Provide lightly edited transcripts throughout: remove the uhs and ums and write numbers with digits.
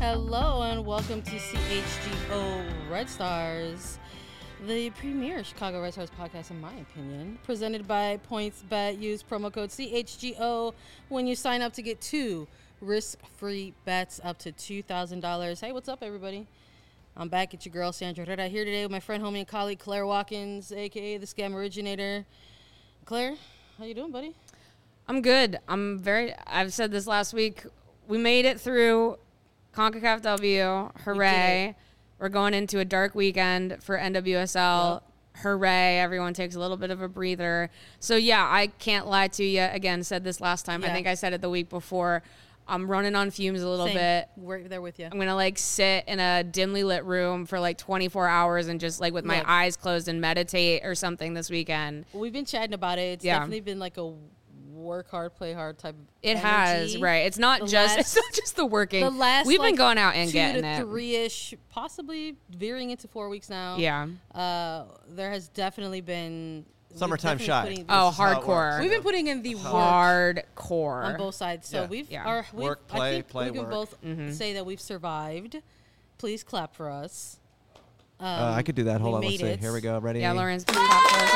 Hello and welcome to CHGO Red Stars, the premier Chicago Red Stars podcast, in my opinion, presented by PointsBet. Use promo code CHGO when you sign up to get 2 risk-free bets up to $2,000. Hey, what's up, everybody? I'm back at your girl, Sandra Herrera, here today with my friend, homie, and colleague, Claire Watkins, a.k.a. the Scam Originator. Claire, how you doing, buddy? I'm good. I've said this last week. We made it through CONCACAF W. Hooray. We're going into a dark weekend for NWSL. Yep. Hooray. Everyone takes a little bit of a breather. So, yeah, I can't lie to you. Again, said this last time. Yeah. I think I said it the week before. I'm running on fumes a little bit. We're there with you. I'm going to, sit in a dimly lit room for, 24 hours and just, with my eyes closed and meditate or something this weekend. We've been chatting about it. It's definitely been, a work hard, play hard type of It energy. It's not just the working. We've been going out and getting it. 2 to 3-ish, possibly veering into 4 weeks now. Yeah. There has definitely been summertime shy. Hardcore. We've been putting in the hardcore on both sides. So work, play, I think play, we can work. both say that we've survived. Please clap for us. I could do that. Hold on, let's see. Here we go. Ready? Yeah, Lauren's clap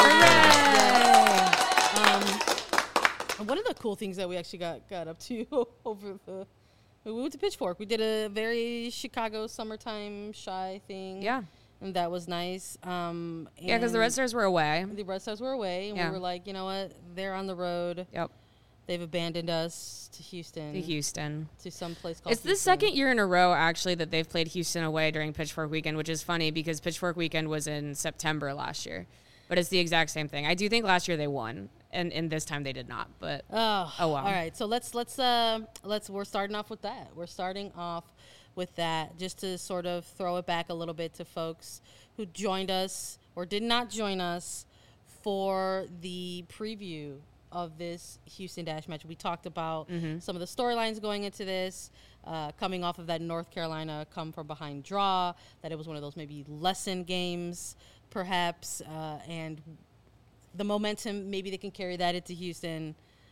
for us. One of the cool things that we actually got up to we went to Pitchfork. We did a very Chicago summertime shy thing. Yeah. And that was nice. Because the Red Stars were away. The Red Stars were away. And we were like, you know what? They're on the road. Yep. They've abandoned us to Houston. To some place called Houston. The second year in a row, actually, that they've played Houston away during Pitchfork Weekend, which is funny because Pitchfork Weekend was in September last year. But it's the exact same thing. I do think last year they won, and this time they did not. But oh well. All right. So let's we're starting off with that. We're starting off with that just to sort of throw it back a little bit to folks who joined us or did not join us for the preview of this Houston Dash match. We talked about some of the storylines going into this, coming off of that North Carolina come from behind draw, that it was one of those maybe lesson games perhaps, and the momentum, maybe they can carry that into Houston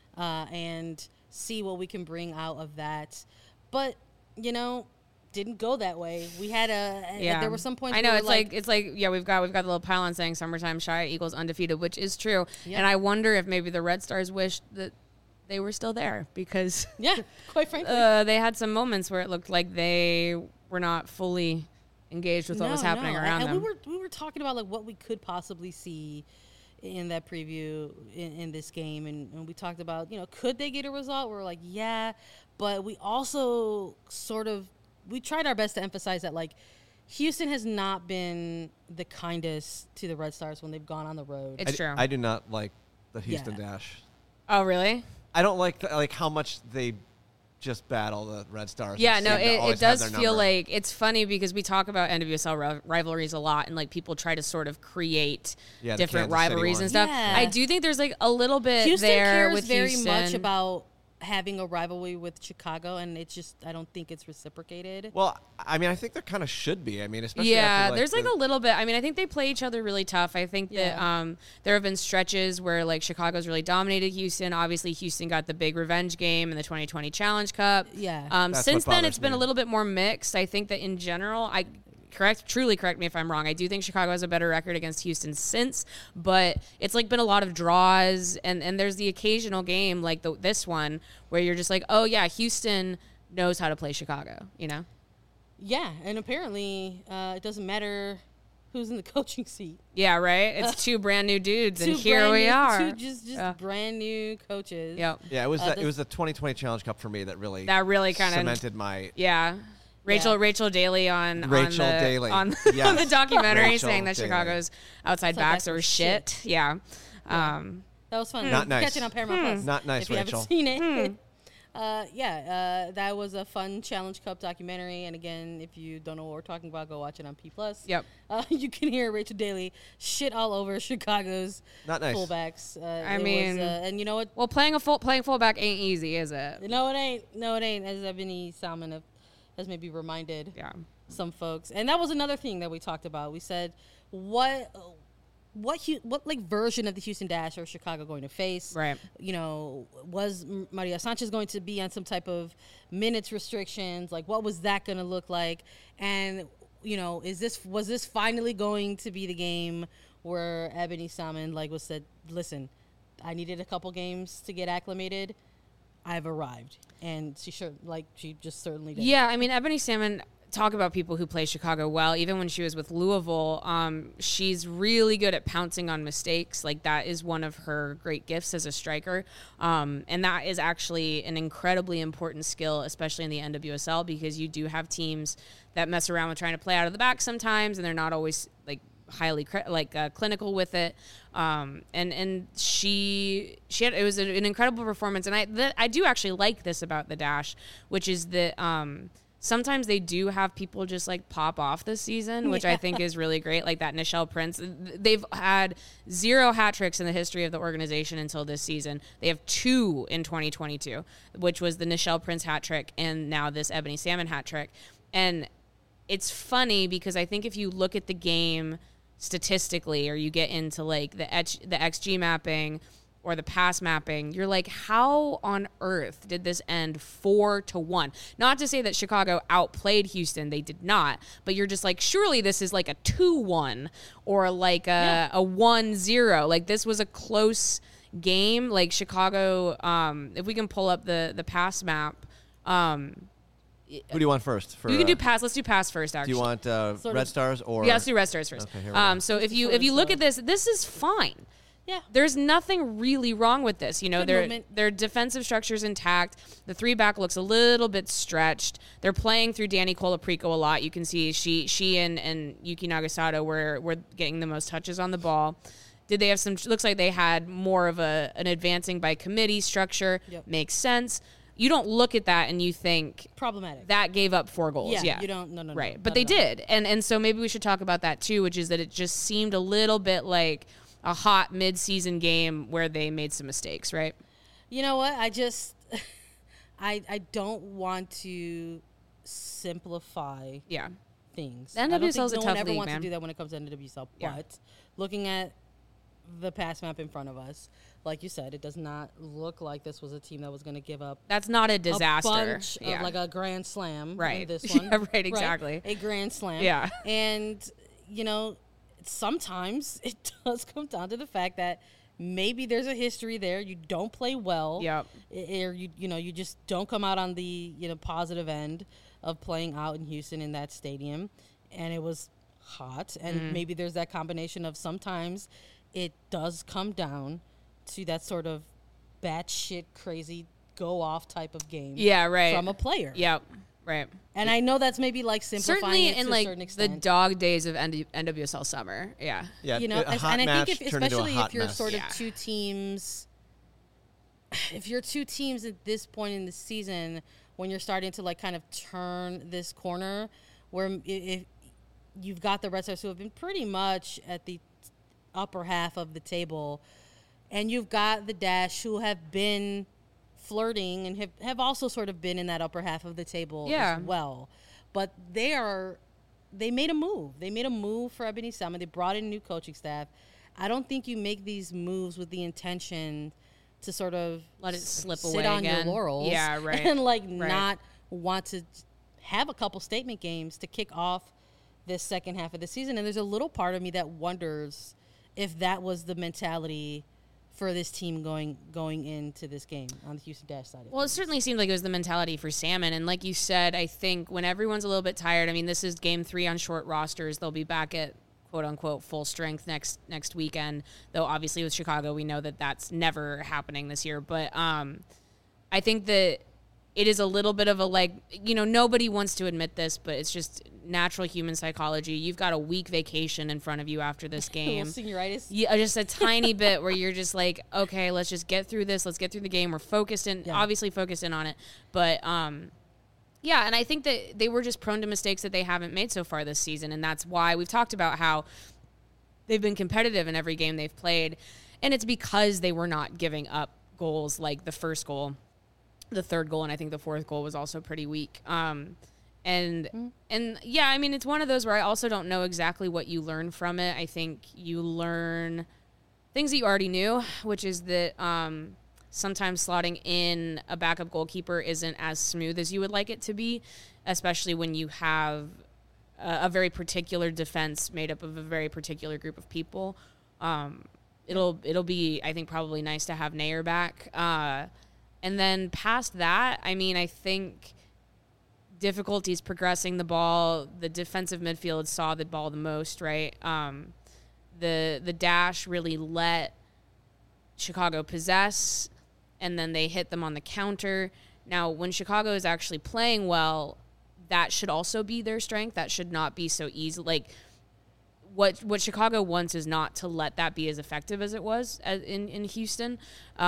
and see what we can bring out of that. But, didn't go that way. We had there were some points. I know we've got the little pylon saying summertime shy equals undefeated, which is true. Yeah. And I wonder if maybe the Red Stars wished that they were still there because quite frankly, they had some moments where it looked like they were not fully engaged with what was happening around them. And we were talking about what we could possibly see in that preview in this game, and we talked about could they get a result? We were like but we also we tried our best to emphasize that Houston has not been the kindest to the Red Stars when they've gone on the road. It's true. I do not like the Houston Dash. Oh, really? I don't like how much they just battle the Red Stars. Yeah, no, it does feel like it's funny because we talk about NWSL rivalries a lot, and people try to sort of create different rivalries and stuff. Yeah. I do think there's a little bit Houston there cares with very Houston. much about having a rivalry with Chicago, and it's just I don't think it's reciprocated. Well, I mean, I think there kind of should be. I mean, especially after, there's a little bit. I mean, I think they play each other really tough. I think that there have been stretches where Chicago's really dominated Houston. Obviously, Houston got the big revenge game in the 2020 Challenge Cup. Yeah. Since then, it's been a little bit more mixed. I think that in general, truly correct me if I'm wrong. I do think Chicago has a better record against Houston since, but it's been a lot of draws, and there's the occasional game this one where you're just Houston knows how to play Chicago, Yeah, and apparently it doesn't matter who's in the coaching seat. Yeah, right? It's 2 brand new dudes, and here we are. 2 just brand new coaches. Yep. Yeah, it was it was the 2020 Challenge Cup for me that really kind of cemented my... Yeah. Rachel Daly on the documentary saying that Chicago's outside backs are shit. Yeah. That was fun. Not nice. Catching on Paramount Plus. Not nice, if you Rachel. haven't seen it. That was a fun Challenge Cup documentary. And again, if you don't know what we're talking about, go watch it on P+. Yep. You can hear Rachel Daly shit all over Chicago's Not nice. fullbacks. And you know what? Well, playing fullback ain't easy, is it? No, it ain't. No, it ain't. As Ebony Salmon has maybe reminded some folks. And that was another thing that we talked about. We said, what what like version of the Houston Dash or Chicago going to face? Right. You know, was Maria Sanchez going to be on some type of minutes restrictions? Like, what was that going to look like? And you know, was this finally going to be the game where Ebony Salmon was said, listen, I needed a couple games to get acclimated. I've arrived, and she just certainly did. Yeah, I mean, Ebony Salmon. Talk about people who play Chicago well. Even when she was with Louisville, she's really good at pouncing on mistakes. Like, that is one of her great gifts as a striker. And that is actually an incredibly important skill, especially in the NWSL, because you do have teams that mess around with trying to play out of the back sometimes, and they're not always like highly clinical with it. And she had, it was an incredible performance. And I do actually like this about the Dash, which is that, sometimes they do have people just like pop off this season, which I think is really great. Like that Nichelle Prince. They've had 0 hat tricks in the history of the organization until this season. They have 2 in 2022, which was the Nichelle Prince hat trick and now this Ebony Salmon hat trick. And it's funny because I think if you look at the game statistically, or you get into like the XG mapping or the pass mapping, you're like, how on earth did this end 4-1? Not to say that Chicago outplayed Houston, they did not, but you're just like, surely this is like a 2-1 or like a 1-0. Like, this was a close game. Like, Chicago, if we can pull up the pass map. Who do you want first? You can do pass. Let's do pass first, actually. Do you want Red Stars or? Yeah, let's do Red Stars first. Okay, here we go. So if you look at this is fine. Yeah. There's nothing really wrong with this. You know, their defensive structure's intact. The 3-back looks a little bit stretched. They're playing through Danny Colaprico a lot. You can see she and Yuki Nagasato were getting the most touches on the ball. Did they have some? Looks like they had more of an advancing by committee structure. Yep. Makes sense. You don't look at that and you think problematic. That gave up 4 goals. Yeah. You don't. No. Right. But they did. And so maybe we should talk about that too, which is that it just seemed a little bit like a hot mid-season game where they made some mistakes, right? You know what? I just I don't want to simplify things. The I don't NWSL think is a no tough one ever league, wants man. to do that when it comes to NWSL. Yeah. But looking at the pass map in front of us, like you said, it does not look like this was a team that was going to give up. That's not a disaster. A bunch of like a grand slam. Right. In this one. Yeah, right, exactly. Right? A grand slam. Yeah. And, you know, sometimes it does come down to the fact that maybe there's a history there. You don't play well. Yep. Or you just don't come out on the positive end of playing out in Houston in that stadium, and it was hot. And maybe there's that combination of sometimes it does come down to that sort of batshit crazy go off type of game. Yeah, right. From a player. Yep. Right. And I know that's maybe like simplifying certainly it in to like a certain the extent. dog days of NWSL summer. Yeah. Yeah, You know, a hot and I match think if, turned into a especially hot if you're mess. sort of Yeah. two teams, if you're 2 teams at this point in the season, when you're starting to like kind of turn this corner, where if you've got the Red Stars who have been pretty much at the upper half of the table, and you've got the Dash who have been flirting and have also sort of been in that upper half of the table as well. But they made a move. They made a move for Ebony Salmon. They brought in new coaching staff. I don't think you make these moves with the intention to sort of Let it slip sit away on again. your laurels. Yeah, right. And like Right. not want to have a couple statement games to kick off this second half of the season. And there's a little part of me that wonders if that was the mentality for this team going into this game on the Houston Dash side. Well, it certainly seemed like it was the mentality for Salmon. And like you said, I think when everyone's a little bit tired, I mean, this is game 3 on short rosters. They'll be back at quote unquote full strength next weekend. Though obviously with Chicago, we know that that's never happening this year. But I think that it is a little bit of a like, nobody wants to admit this, but it's just natural human psychology. You've got a week vacation in front of you after this game. Senioritis. Yeah, just a tiny bit where you're just like, okay, let's just get through this. Let's get through the game. We're obviously focused in on it. But, yeah, and I think that they were just prone to mistakes that they haven't made so far this season. And that's why we've talked about how they've been competitive in every game they've played. And it's because they were not giving up goals like the first goal, the third goal, and I think the fourth goal was also pretty weak. And yeah, I mean, it's one of those where I also don't know exactly what you learn from it. I think you learn things that you already knew, which is that sometimes slotting in a backup goalkeeper isn't as smooth as you would like it to be, especially when you have a very particular defense made up of a very particular group of people. It'll be, I think, probably nice to have Nair back. And then past that, I mean, I think difficulties progressing the ball. The defensive midfield saw the ball the most, right? The dash really let Chicago possess, and then they hit them on the counter. Now, when Chicago is actually playing well, that should also be their strength. That should not be so easy. Like, what Chicago wants is not to let that be as effective as it was in Houston.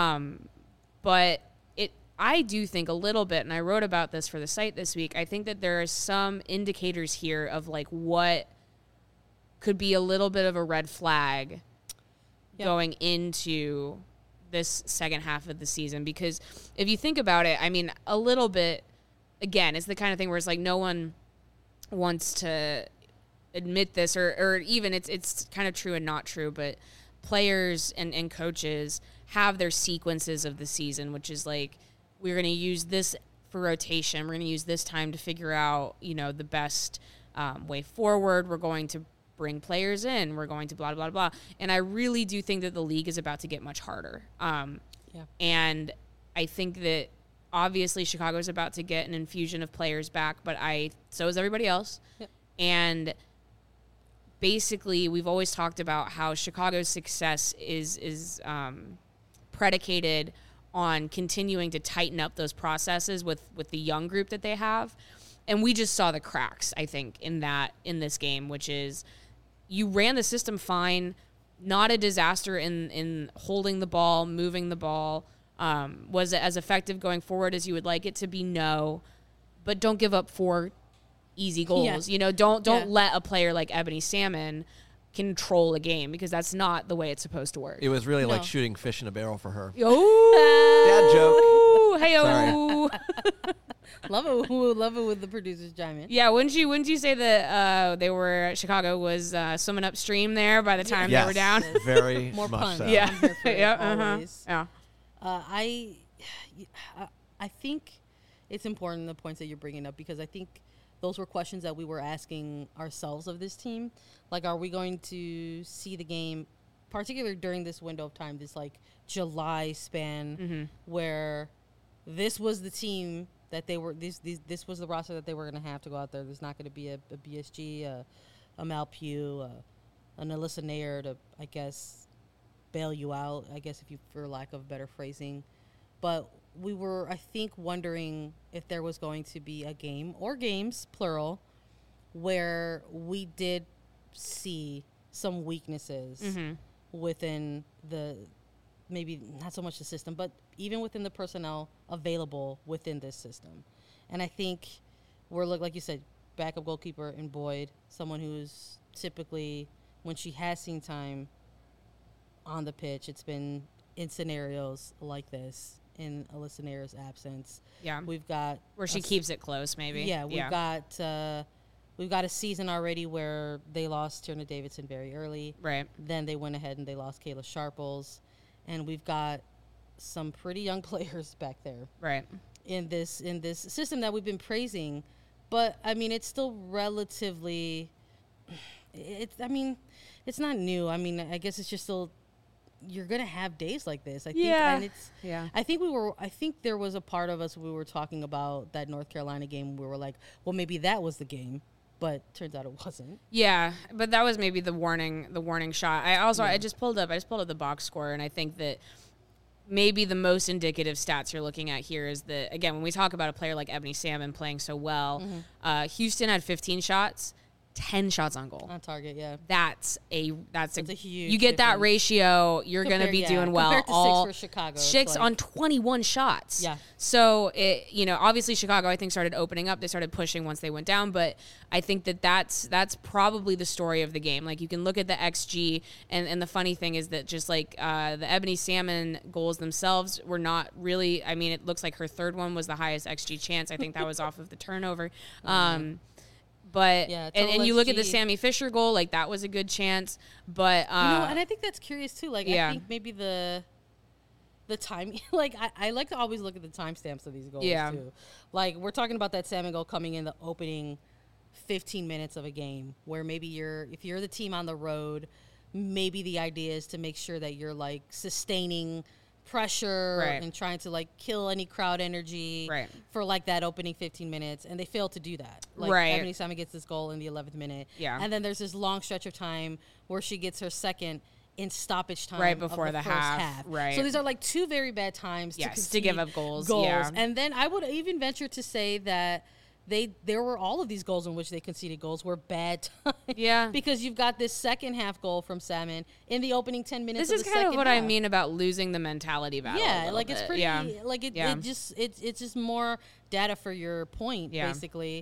But I do think a little bit, and I wrote about this for the site this week, I think that there are some indicators here of like what could be a little bit of a red flag going into this second half of the season. Because if you think about it, I mean, a little bit, again, it's the kind of thing where it's like no one wants to admit this, or even it's kind of true and not true, but players and coaches have their sequences of the season, which is like, we're going to use this for rotation. We're going to use this time to figure out, the best way forward. We're going to bring players in. We're going to blah, blah, blah. And I really do think that the league is about to get much harder. And I think that obviously Chicago is about to get an infusion of players back, but so is everybody else. Yep. And basically we've always talked about how Chicago's success is predicated on continuing to tighten up those processes with the young group that they have. And we just saw the cracks, I think, in this game, which is you ran the system fine, not a disaster in holding the ball, moving the ball. Was it as effective going forward as you would like it to be? No. But don't give up 4 easy goals. Yeah. Don't let a player like Ebony Salmon control a game, because that's not the way it's supposed to work. It was really like shooting fish in a barrel for her. Oh, dad joke. Hey-o. Love it with the producers chime in. Yeah, wouldn't you say that Chicago was swimming upstream there by the time they were down? Very more much puns. so. Yeah, always. Yeah. I think it's important, the points that you're bringing up, because I think those were questions that we were asking ourselves of this team. Like, are we going to see the game, particularly during this window of time, this like July span, where this was the team that they were, this was the roster that they were going to have to go out there. There's not going to be a BSG, a Malpew, an Alyssa Nair to, I guess, bail you out, I guess, if you, for lack of better phrasing. But we were, I think, wondering if there was going to be a game, or games, plural, where we did see some weaknesses within maybe not so much the system, but even within the personnel available within this system. And I think we're, like you said, backup goalkeeper in Boyd, someone who's typically, when she has seen time on the pitch, it's been in scenarios like this, in Alyssa Nair's absence. Yeah. We've got... Where she keeps it close, maybe. Yeah, we've got a season already where they lost Tierna Davidson very early. Right. Then they went ahead and they lost Kayla Sharples. And we've got some pretty young players back there. Right. In this system that we've been praising. But, I mean, it's still relatively... It's not new. I mean, I guess it's just still... You're going to have days like this, I think. Yeah. And it's... Yeah. I think there was a part of us, we were talking about that North Carolina game, we were like, well, maybe that was the game. But turns out it wasn't. Yeah, but that was maybe the warning shot. I just pulled up the box score, and I think that maybe the most indicative stats you're looking at here is that, again, when we talk about a player like Ebony Salmon playing so well, Houston had 15 shots, 10 shots on goal. On target, yeah. That's a huge you get that difference. ratio, you're going to be doing well. Compared to All 6 for Chicago. it's 6 like- on 21 shots. Yeah. So it, obviously Chicago, I think, started opening up. They started pushing once they went down, but I think that's probably the story of the game. Like, you can look at the XG, and the funny thing is that just like the Ebony Salmon goals themselves were not really. I mean, it looks like her third one was the highest XG chance. I think that was off of the turnover. But Yeah, and total you look at the XG. Sammy Fisher goal, like that was a good chance. But and I think that's curious too. Like, yeah. I think maybe the time, like, I like to always look at the timestamps of these goals Yeah. too. Like, we're talking about that salmon goal coming in the opening 15 minutes of a game, where maybe if you're the team on the road, maybe the idea is to make sure that you're like sustaining pressure Right. and trying to like kill any crowd energy Right. for like that opening 15 minutes, and they fail to do that. Like, Right. Ebony Salmon gets this goal in the 11th minute, Yeah. and then there's this long stretch of time where she gets her second in stoppage time Right before of the the first half, right. So these are like two very bad times Yes, to to give concede up goals, yeah. And then I would even venture to say that there were all of these goals in which they conceded goals were bad times. Yeah. Because you've got this second half goal from Salmon in the opening 10 minutes this of is the kind of second what I half. mean about losing the mentality battle. a Yeah, little like it's bit. pretty Yeah. like it, Yeah. it's just more data for your point, Yeah. basically.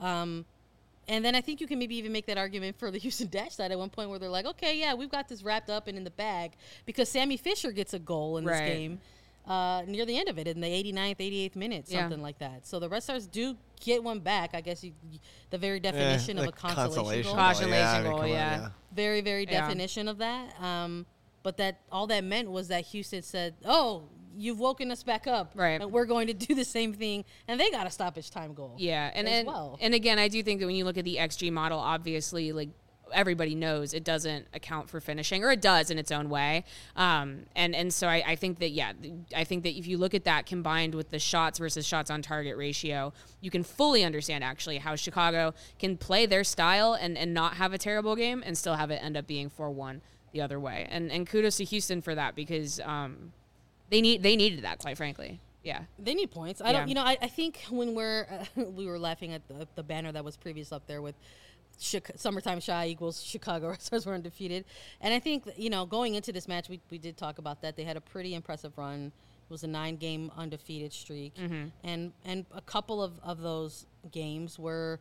And then I think you can maybe even make that argument for the Houston Dash side at one point where they're like, okay, yeah, we've got this wrapped up and in the bag, because Sammy Fisher gets a goal in this Right. game near the end of it, in the 89th, 88th minute, Yeah. something like that. So the Red Stars do get one back. I guess the very definition of a like consolation goal. Consolation I goal, come on, yeah. Very, very Yeah. definition of that. But that all that meant was that Houston said, "Oh, you've woken us back up, Right. and we're going to do the same thing," and they got a stoppage time goal. Yeah, and as and, well. and again, I do think that when you look at the XG model, obviously, like everybody knows it doesn't account for finishing, or it does in its own way. And so I think that I think that if you look at that combined with the shots versus shots on target ratio, you can fully understand actually how Chicago can play their style and not have a terrible game and still have it end up being 4-1 the other way. And kudos to Houston for that, because they needed that, quite frankly. Yeah. They need points. I think when we were laughing at the banner that was previous up there with Summertime Shy equals Chicago Red Stars were undefeated. And I think, going into this match, we did talk about that. They had a pretty impressive run. It was a 9-game undefeated streak. Mm-hmm. And a couple of those games were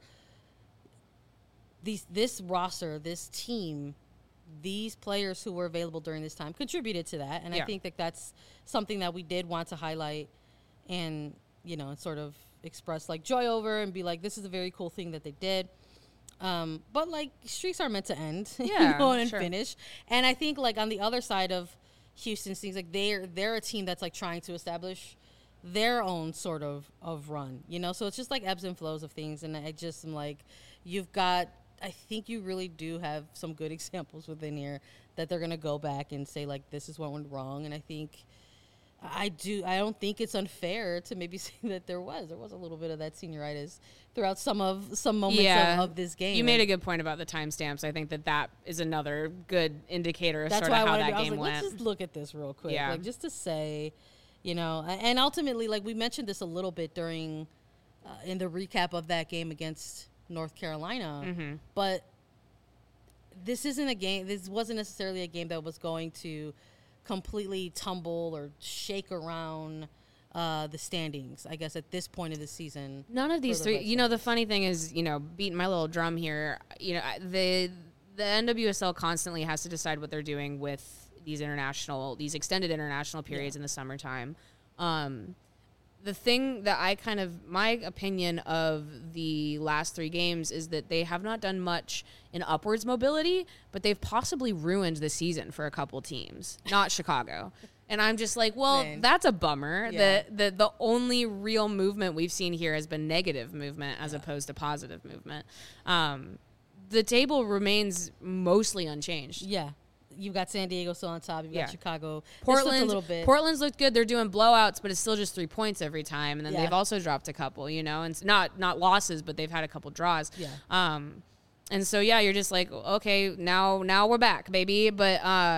this roster, this team, these players who were available during this time contributed to that. And Yeah. I think that that's something that we did want to highlight and, sort of express like joy over and be like, this is a very cool thing that they did. But like, streaks are meant to end, Yeah, and sure. finish. And I think like on the other side of Houston, seems like they're a team that's like trying to establish their own sort of run, so it's just like ebbs and flows of things. And I just am like, I think you really do have some good examples within here that they're going to go back and say like, this is what went wrong. And I think I don't think it's unfair to maybe say that there was a little bit of that senioritis throughout some moments of this game. You made a good point about the timestamps. I think that is another good indicator of sort of how that game went. Let's just look at this real quick, Yeah. like just to say, and ultimately, like we mentioned this a little bit during in the recap of that game against North Carolina, Mm-hmm. but this isn't a game. This wasn't necessarily a game that was going to completely tumble or shake around the standings, I guess, at this point of the season. None of these for the three. Red The funny thing is, beating my little drum here. The NWSL constantly has to decide what they're doing with these extended international periods in the summertime. The thing that my opinion of the last 3 games is that they have not done much in upwards mobility, but they've possibly ruined the season for a couple teams, not Chicago. And I'm just like, well, Man. that's a bummer. Yeah. The only real movement we've seen here has been negative movement as opposed to positive movement. The table remains mostly unchanged. Yeah. You've got San Diego still on top. You've Yeah. got Chicago. They slipped a little bit. Portland's looked good. They're doing blowouts, but it's still just 3 points every time. And then Yeah. they've also dropped a couple, and it's not losses, but they've had a couple draws. Yeah. And so you're just like, okay, now we're back, baby. But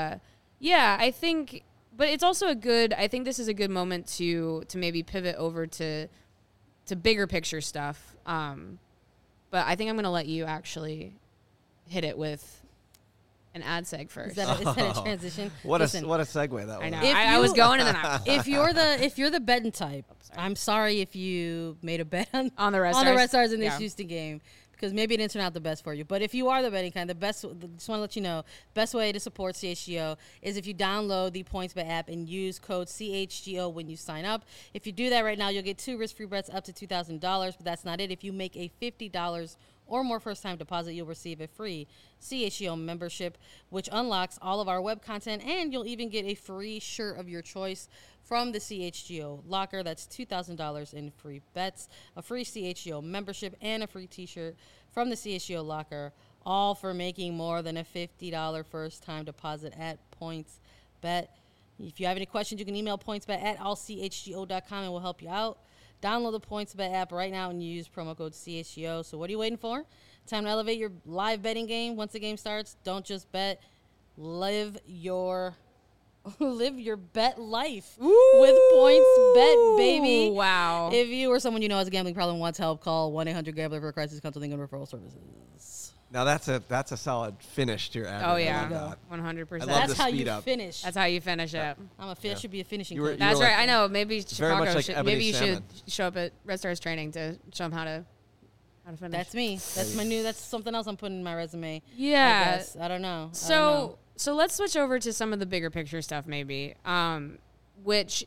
I think, but it's also I think this is a good moment to maybe pivot over to bigger picture stuff. But I think I'm gonna let you actually hit it with an ad seg first. Is that a transition? What Listen, a segue that was. I know. If I was you- going and then I if you're the betting type, I'm sorry if you made a bet On the Red on the Stars? Red Stars in this Yeah. Houston game, because maybe it didn't turn out the best for you. But if you are the betting kind, just want to let you know, best way to support CHGO is if you download the PointsBet app and use code CHGO when you sign up. If you do that right now, you'll get 2 risk-free bets up to $2,000. But that's not it. If you make a $50 or more first-time deposit, you'll receive a free CHGO membership, which unlocks all of our web content, and you'll even get a free shirt of your choice from the CHGO locker. That's $2,000 in free bets, a free CHGO membership, and a free t-shirt from the CHGO locker, all for making more than a $50 first-time deposit at PointsBet. If you have any questions, you can email pointsbet@allchgo.com and we'll help you out. Download the PointsBet app right now and use promo code CHGO. So what are you waiting for? Time to elevate your live betting game. Once the game starts, don't just bet. Live your bet life with PointsBet, baby. Wow. If you or someone you know has a gambling problem and wants help, call 1-800-GAMBLER for a crisis counseling and referral services. Now that's a solid finish to your ad. Oh, read. I yeah. love that. 100%. I love That's the how speed you up. finish. That's how you finish it. Should be a finishing You were- coach. That's like- right. I know. Maybe very Chicago much like should. Ebony Maybe you Salmon. should show up at Red Stars training to show them how to finish. That's me. That's something else I'm putting in my resume. Yeah. I guess. I don't know. So let's switch over to some of the bigger picture stuff, maybe. Which,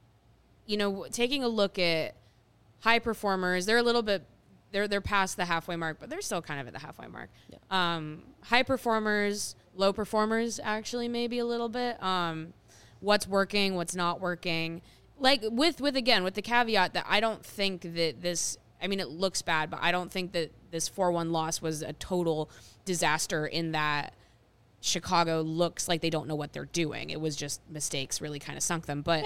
taking a look at high performers, they're a little bit, they're past the halfway mark, but they're still kind of at the halfway mark. Yeah. High performers, low performers, actually, maybe a little bit. What's working, what's not working. Like with the caveat that I don't think that this. I mean, it looks bad, but I don't think that this 4-1 loss was a total disaster in that Chicago looks like they don't know what they're doing. It was just mistakes really kind of sunk them. But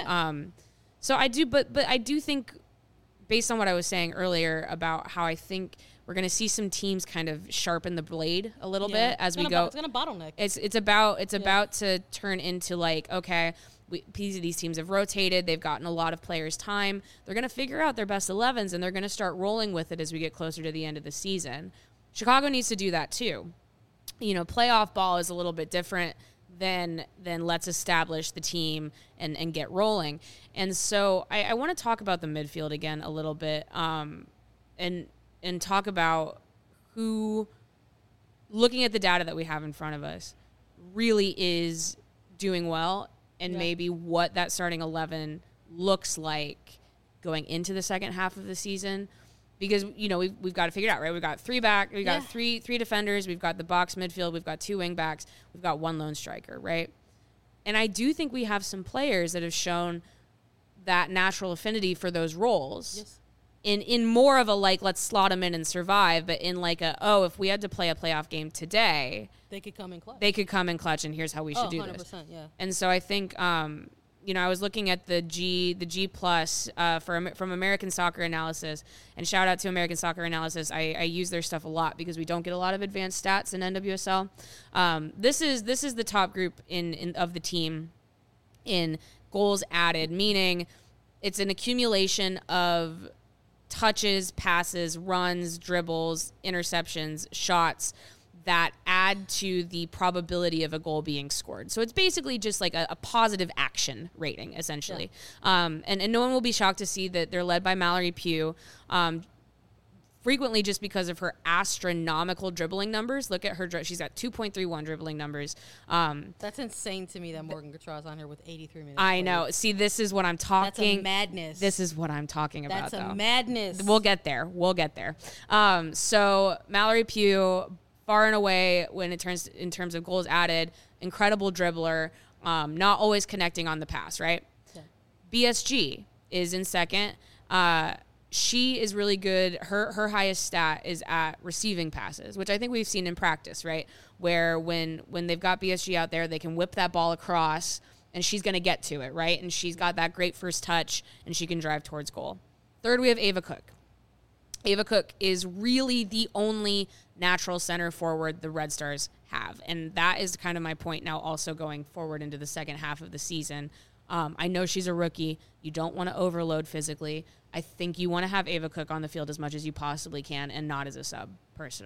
so I do, but I do think, based on what I was saying earlier about how I think we're going to see some teams kind of sharpen the blade a little bit as we go. It's going to bottleneck. It's about to turn into like, okay, these teams have rotated. They've gotten a lot of players time. They're going to figure out their best 11s, and they're going to start rolling with it as we get closer to the end of the season. Chicago needs to do that too. Playoff ball is a little bit different than let's establish the team and get rolling. And so I want to talk about the midfield again a little bit, and talk about who, looking at the data that we have in front of us, really is doing well, and maybe what that starting 11 looks like going into the second half of the season. Because, we've got to figure it out, right? We've got three defenders. We've got the box midfield. We've got 2 wing backs. We've got 1 lone striker, right? And I do think we have some players that have shown that natural affinity for those roles. Yes. In more of a, like, let's slot them in and survive, but in like if we had to play a playoff game today, they could come in clutch. they could come in clutch, and here's how we should do 100%, this. yeah. And so I think, I was looking at the G plus from American Soccer Analysis, and shout out to American Soccer Analysis. I use their stuff a lot because we don't get a lot of advanced stats in NWSL. This is the top group of the team in goals added, meaning it's an accumulation of touches, passes, runs, dribbles, interceptions, shots that add to the probability of a goal being scored. So it's basically just like a positive action rating, essentially. Yeah. And no one will be shocked to see that they're led by Mallory Pugh, frequently just because of her astronomical dribbling numbers. Look at her. She's got 2.31 dribbling numbers. That's insane to me that Morgan Gautrat's on here with 83 minutes. I know. See, this is what I'm talking. That's a madness. This is what I'm talking about, That's though. a madness. We'll get there. So Mallory Pugh, far and away in terms of goals added, incredible dribbler, not always connecting on the pass, right? Yeah. BSG is in second. She is really good. Her highest stat is at receiving passes, which I think we've seen in practice, right? Where when they've got BSG out there, they can whip that ball across, and she's going to get to it, right? And she's got that great first touch, and she can drive towards goal. Third, we have Ava Cook. Ava Cook is really the only natural center forward the Red Stars have. And that is kind of my point now also going forward into the second half of the season. I know she's a rookie. You don't want to overload physically. I think you want to have Ava Cook on the field as much as you possibly can and not as a sub, personally.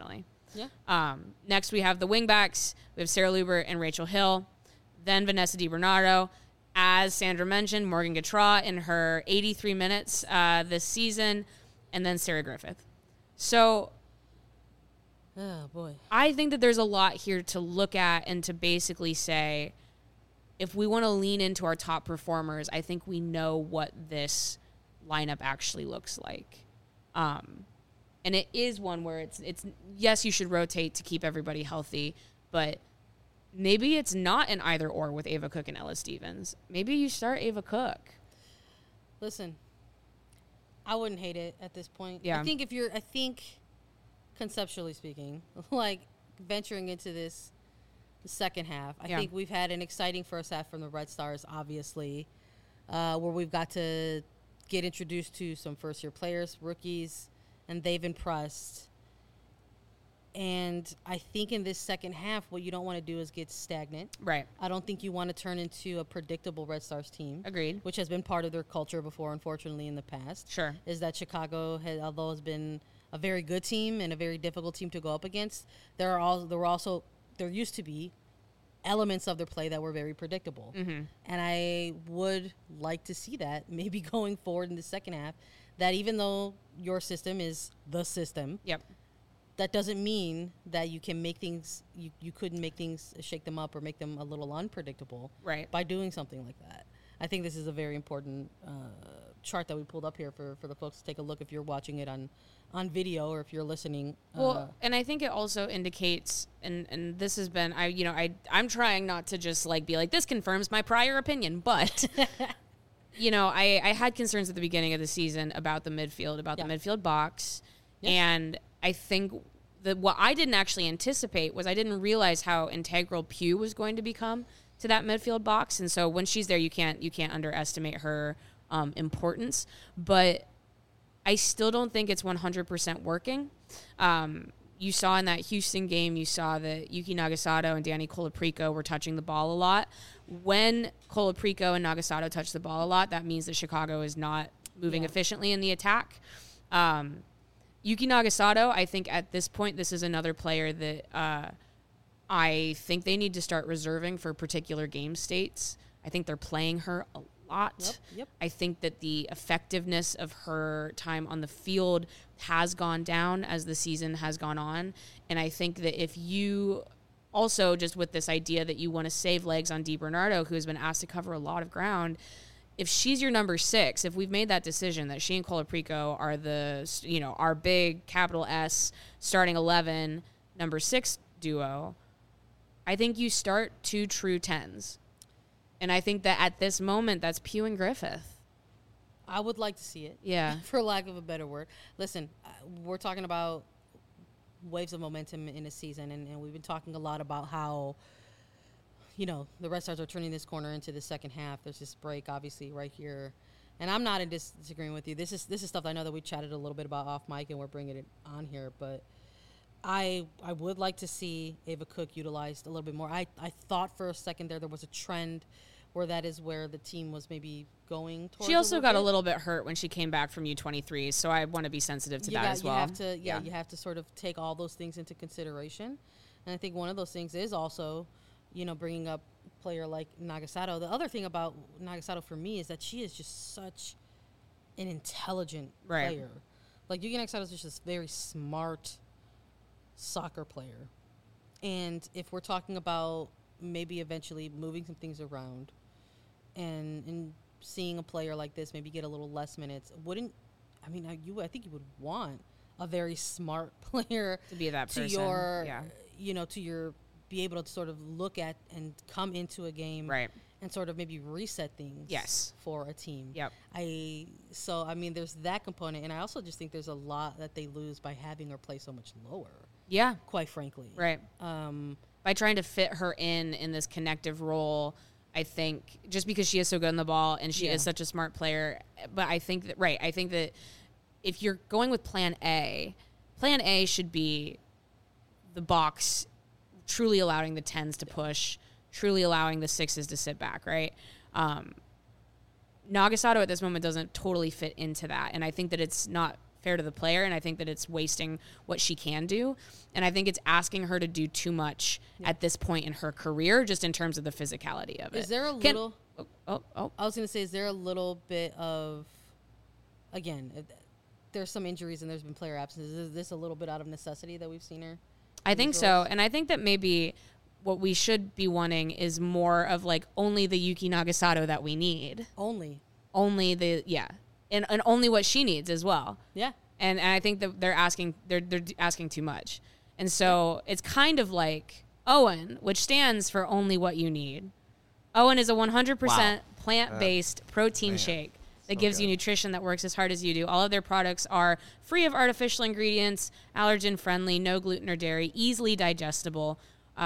Yeah. Next, we have the wingbacks. We have Sarah Luber and Rachel Hill. Then Vanessa DiBernardo. As Sandra mentioned, Morgan Gautrat in her 83 minutes this season. And then Sarah Griffith. So Oh, boy. I think that there's a lot here to look at and to basically say, if we want to lean into our top performers, I think we know what this lineup actually looks like. And it is one where it's yes, you should rotate to keep everybody healthy, but maybe it's not an either or with Ava Cook and Ella Stevens. Maybe you start Ava Cook. Listen, I wouldn't hate it at this point. Yeah. I think conceptually speaking, like venturing into this the second half, I think we've had an exciting first half from the Red Stars, obviously, where we've got to get introduced to some first-year players, rookies, and they've impressed. And I think in this second half, what you don't want to do is get stagnant. Right. I don't think you want to turn into a predictable Red Stars team. Agreed. Which has been part of their culture before, unfortunately, in the past. Sure. Is that Chicago, although has been a very good team and a very difficult team to go up against, there used to be elements of their play that were very predictable. Mm-hmm. And I would like to see that maybe going forward in the second half, that even though your system is the system, Yep. that doesn't mean that you can make things, you couldn't make things, shake them up or make them a little unpredictable Right. by doing something like that. I think this is a very important chart that we pulled up here for the folks to take a look if you're watching it on video or if you're listening. Well, and I think it also indicates, and this has been, I'm trying not to just like be like, this confirms my prior opinion, but I had concerns at the beginning of the season about the midfield, the midfield box. Yes. And I think that what I didn't actually anticipate was I didn't realize how integral Pugh was going to become to that midfield box. And so when she's there, you can't underestimate her importance, but I still don't think it's 100% working. You saw in that Houston game, you saw that Yuki Nagasato and Danny Colaprico were touching the ball a lot. When Colaprico and Nagasato touch the ball a lot, that means that Chicago is not moving efficiently in the attack. Yuki Nagasato, I think at this point, this is another player that I think they need to start reserving for particular game states. I think they're playing her a lot. Yep. I think that the effectiveness of her time on the field has gone down as the season has gone on. And I think that if you also, just with this idea that you want to save legs on DiBernardo, who has been asked to cover a lot of ground, if she's your number 6, if we've made that decision that she and Colaprico are our big capital S starting 11, number 6 duo, I think you start 2 true 10s. And I think that at this moment, that's Pugh and Griffith. I would like to see it. Yeah. For lack of a better word. Listen, we're talking about waves of momentum in a season, and we've been talking a lot about how, the Red Stars are turning this corner into the second half. There's this break, obviously, right here. And I'm not in disagreeing with you. This is stuff that I know that we chatted a little bit about off mic, and we're bringing it on here. But I would like to see Ava Cook utilized a little bit more. I thought for a second there was a trend where that is where the team was maybe going towards. She also got a little bit hurt when she came back from U23, so I want to be sensitive to that as well. You have to sort of take all those things into consideration. And I think one of those things is also, bringing up a player like Nagasato. The other thing about Nagasato for me is that she is just such an intelligent player. Like, Yuki Nagasato is just this very smart soccer player. And if we're talking about maybe eventually moving some things around and seeing a player like this maybe get a little less minutes, I think you would want a very smart player to be that person. Be able to sort of look at and come into a game and sort of maybe reset things for a team. Yep. There's that component, and I also just think there's a lot that they lose by having her play so much lower. Yeah. Quite frankly. Right. By trying to fit her in this connective role, I think just because she is so good on the ball and she is such a smart player, but I think that if you're going with plan A should be the box truly allowing the 10s to push, truly allowing the 6s to sit back, right? Nagasato at this moment doesn't totally fit into that, and I think that it's not fair to the player, and I think that it's wasting what she can do. And I think it's asking her to do too much at this point in her career, just in terms of the physicality of it. Is there a little... I was going to say, is there a little bit of... Again, there's some injuries and there's been player absences. Is this a little bit out of necessity that we've seen her? I think so. And I think that maybe what we should be wanting is more of like only the Yuki Nagasato that we need. Only the, yeah. And only what she needs as well. Yeah. And I think that they're asking too much. And so it's kind of like OWYN, which stands for only what you need. OWYN is a 100% plant-based protein shake that gives you nutrition that works as hard as you do. All of their products are free of artificial ingredients, allergen-friendly, no gluten or dairy, easily digestible.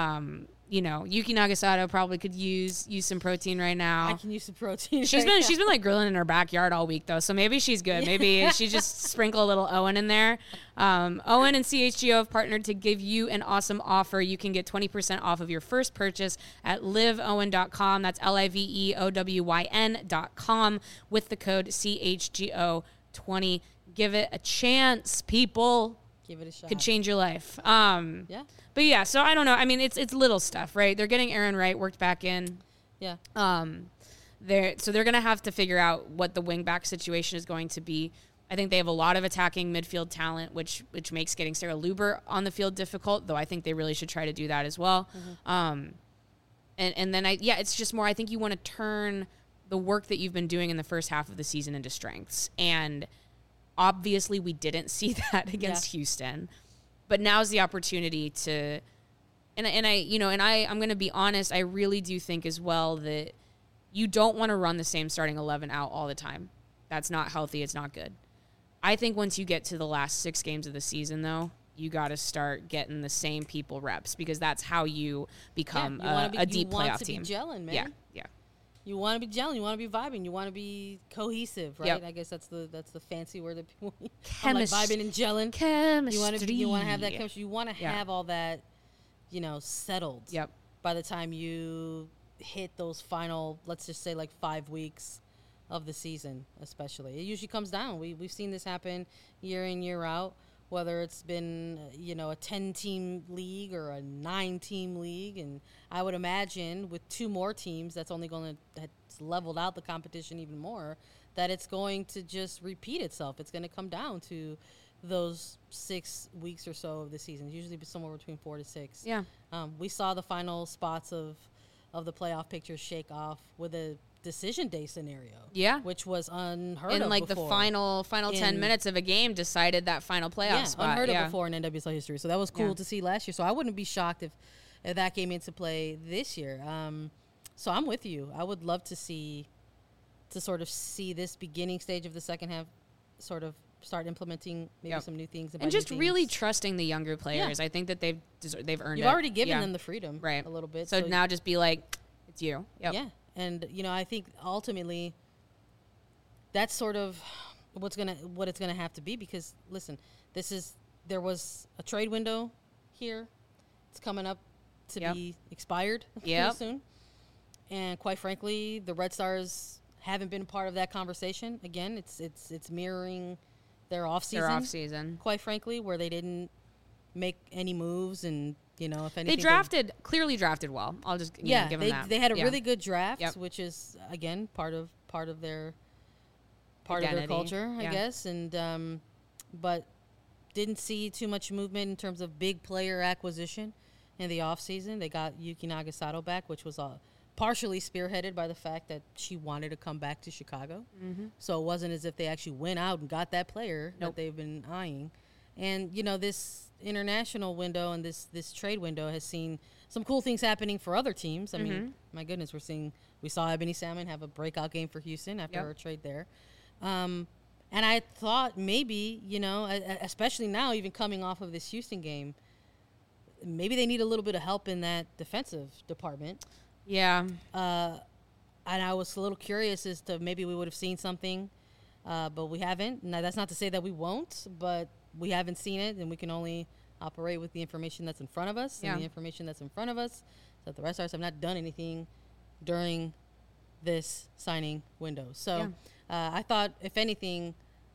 Yuki Nagasato probably could use some protein right now. I can use some protein. She's been like grilling in her backyard all week though, so maybe she's good. Maybe she just sprinkle a little OWYN in there. OWYN and CHGO have partnered to give you an awesome offer. You can get 20% off of your first purchase at liveowyn.com. That's LIVEOWYN.com with the code CHGO20. Give it a chance, people. Give it a shot. Could change your life. Yeah. But yeah, so I don't know. I mean, it's little stuff, right? They're getting Aaron Wright worked back in. Yeah. They're going to have to figure out what the wingback situation is going to be. I think they have a lot of attacking midfield talent, which makes getting Sarah Luber on the field difficult, though I think they really should try to do that as well. Mm-hmm. And then it's just more, I think you want to turn the work that you've been doing in the first half of the season into strengths. And obviously we didn't see that against Houston. But now's the opportunity to, I'm going to be honest, I really do think as well that you don't want to run the same starting 11 out all the time. That's not healthy. It's not good. I think once you get to the last 6 games of the season, though, you got to start getting the same people reps because that's how you become a deep playoff team. You want to be gelling, man. Yeah. You want to be gelling. You want to be vibing. You want to be cohesive, right? Yep. I guess that's the fancy word that people chemistry, like vibing and gelling. Chemistry. You want to have that chemistry. You want to have all that, settled. Yep. By the time you hit those final, let's just say like 5 weeks of the season, especially, it usually comes down. We've seen this happen year in, year out. Whether it's been, a 10-team league or a 9-team league. And I would imagine with 2 more teams, that's leveled out the competition even more, that it's going to just repeat itself. It's going to come down to those 6 weeks or so of the season. It's usually somewhere between 4 to 6. Yeah. We saw the final spots of the playoff picture shake off with a decision day scenario. Yeah. Which was unheard of in like before. The final 10 minutes of a game decided that final playoff spot. Unheard of before in NWSL history. So that was cool to see last year. So I wouldn't be shocked if that came into play this year. So I'm with you. I would love to see this beginning stage of the second half sort of start implementing maybe some new things. And just really trusting the younger players. I think that they've earned it. You've already given them the freedom a little bit. So now just be like, it's you. Yep. Yeah. And, I think ultimately that's sort of what it's gonna have to be because, listen, there was a trade window here. It's coming up to be expired pretty soon. And quite frankly, the Red Stars haven't been part of that conversation. Again, it's mirroring their offseason. Quite frankly, where they didn't make any moves and if anything, they clearly drafted well. I'll just give them that. They had a really good draft, which is again part of their identity. Of their culture, I guess. And but didn't see too much movement in terms of big player acquisition in the offseason. They got Yuki Nagasato back, which was partially spearheaded by the fact that she wanted to come back to Chicago. Mm-hmm. So it wasn't as if they actually went out and got that player that they've been eyeing. And this international window and this trade window has seen some cool things happening for other teams. I mean, my goodness, we saw Ebony Salmon have a breakout game for Houston after her trade there. And I thought maybe, especially now, even coming off of this Houston game, maybe they need a little bit of help in that defensive department. Yeah. And I was a little curious as to maybe we would have seen something, but we haven't. Now, that's not to say that we won't, but we haven't seen it, and we can only operate with the information that's in front of us. And the information that's in front of us is that the Red Stars have not done anything during this signing window. So I thought, if anything,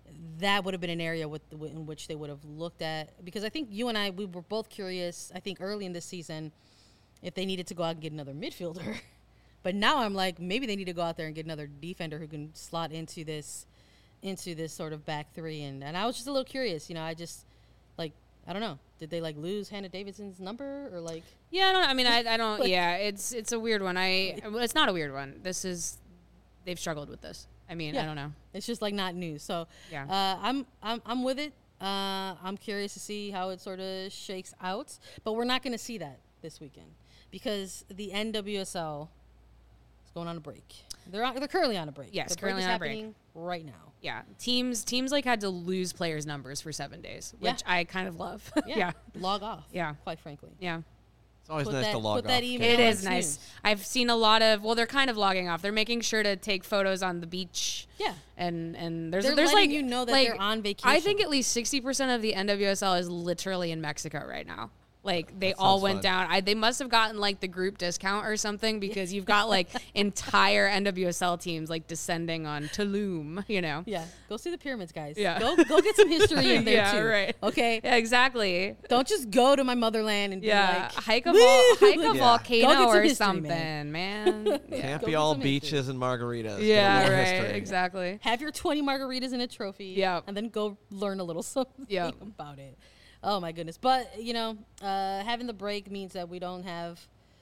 that would have been an area in which they would have looked at, because I think you and I, we were both curious, I think early in this season, if they needed to go out and get another midfielder. But now I'm like, maybe they need to go out there and get another defender who can slot into this sort of back three. And I was just a little curious, I just, like, I don't know. Did they, like, lose Hannah Davidson's number, or, like? Yeah, I don't. I mean, I don't. Like, yeah, it's a weird one. It's not a weird one. They've struggled with this. I mean, I don't know. It's just, like, not new. So yeah, I'm with it. I'm curious to see how it sort of shakes out. But we're not going to see that this weekend, because the NWSL is going on a break. They're currently on a break. Yes, the currently break is on a break happening right now. Yeah, teams like had to lose players' numbers for 7 days, which I kind of love. Yeah. Log off. Yeah. Quite frankly. Yeah. It's always nice to log off. It is nice. I've seen a lot of, they're kind of logging off. They're making sure to take photos on the beach. Yeah. And there's letting like, that they're on vacation. I think at least 60% of the NWSL is literally in Mexico right now. Like, they all went down. They must have gotten, like, the group discount or something, because you've got, like, entire NWSL teams, like, descending on Tulum, Yeah. Go see the pyramids, guys. Yeah. Go get some history in there, too. Yeah, right. Okay? Yeah, exactly. Don't just go to my motherland and be like, hike a volcano or history, something, man. Can't be all beaches and margaritas. Yeah, right. Exactly. Have your 20 margaritas and a trophy. Yeah. And then go learn a little something about it. Oh, my goodness. But, having the break means that we don't have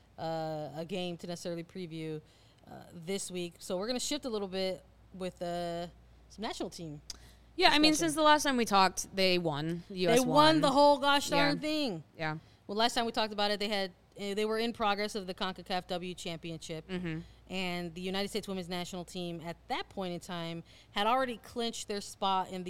a game to necessarily preview this week. So we're going to shift a little bit with some national team. Yeah, I mean, since the last time we talked, they won. The U.S. They won the whole gosh darn Yeah. thing. Yeah. Well, last time we talked about it, they were in progress of the CONCACAF W Championship. Mm-hmm. And the United States women's national team at that point in time had already clinched their spot in the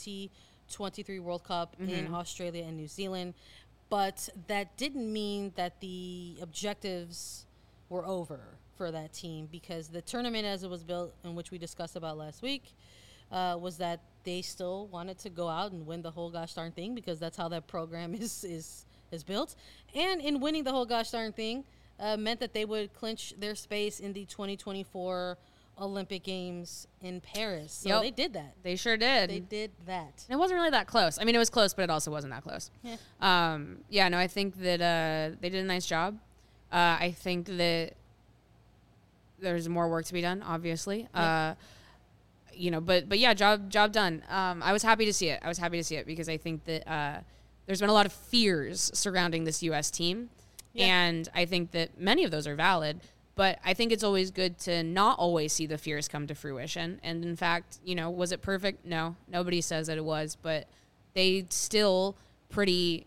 2023 World Cup in Australia and New Zealand. But that didn't mean that the objectives were over for that team, because the tournament as it was built, in which we discussed about last week, was that they still wanted to go out and win the whole gosh darn thing, because that's how that program is built. And in winning the whole gosh darn thing meant that they would clinch their space in the 2024 Olympic Games in Paris. So they did that. They sure did. They did that. And it wasn't really that close. I mean, it was close, but it also wasn't that close. Yeah. I think that they did a nice job. I think that there's more work to be done, obviously. Yeah. But yeah, job done. I was happy to see it. Because I think that there's been a lot of fears surrounding this U.S. team. Yeah. And I think that many of those are valid. But I think it's always good to not always see the fears come to fruition. And in fact, was it perfect? No, nobody says that it was, but they still pretty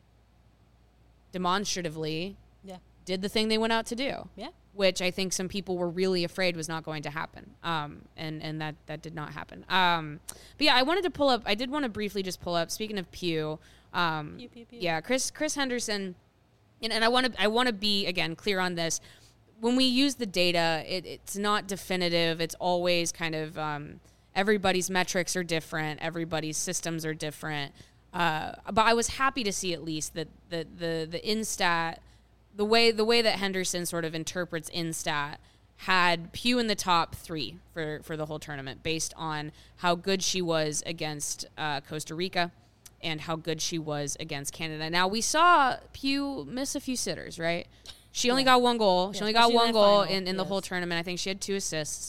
demonstratively did the thing they went out to do. Yeah. Which I think some people were really afraid was not going to happen. And that did not happen. But yeah, I did want to briefly just pull up, speaking of Pew. Pew. Yeah, Chris Henderson, and I want to be, again, clear on this. When we use the data, it's not definitive. It's always kind of everybody's metrics are different. Everybody's systems are different. But I was happy to see at least that the Instat, the way that Henderson sort of interprets Instat, had Pew in the top 3 for the whole tournament, based on how good she was against Costa Rica and how good she was against Canada. Now, we saw Pew miss a few sitters, right? She only got one goal. She only got one goal in the whole tournament. I think she had 2 assists.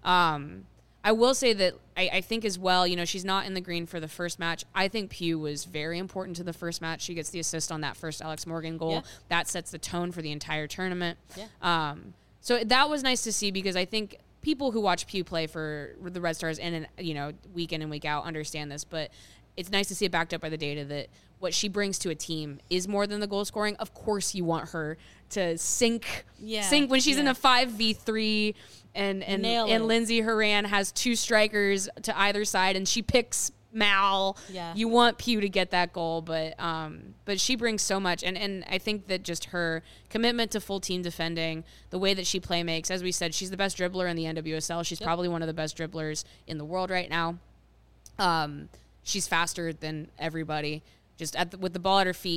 I will say that I think as well, she's not in the green for the first match. I think Pew was very important to the first match. She gets the assist on that first Alex Morgan goal. Yeah. That sets the tone for the entire tournament. Yeah. So that was nice to see, because I think people who watch Pew play for the Red Stars week in and week out understand this, but it's nice to see it backed up by the data that what she brings to a team is more than the goal scoring. Of course, you want her to sink when she's in a 5v3 and Lindsey Horan has 2 strikers to either side and she picks Mal. Yeah. You want Pew to get that goal, but she brings so much, and I think that just her commitment to full team defending, the way that she play makes, as we said, she's the best dribbler in the NWSL. She's probably one of the best dribblers in the world right now. She's faster than everybody, just with the ball at her feet.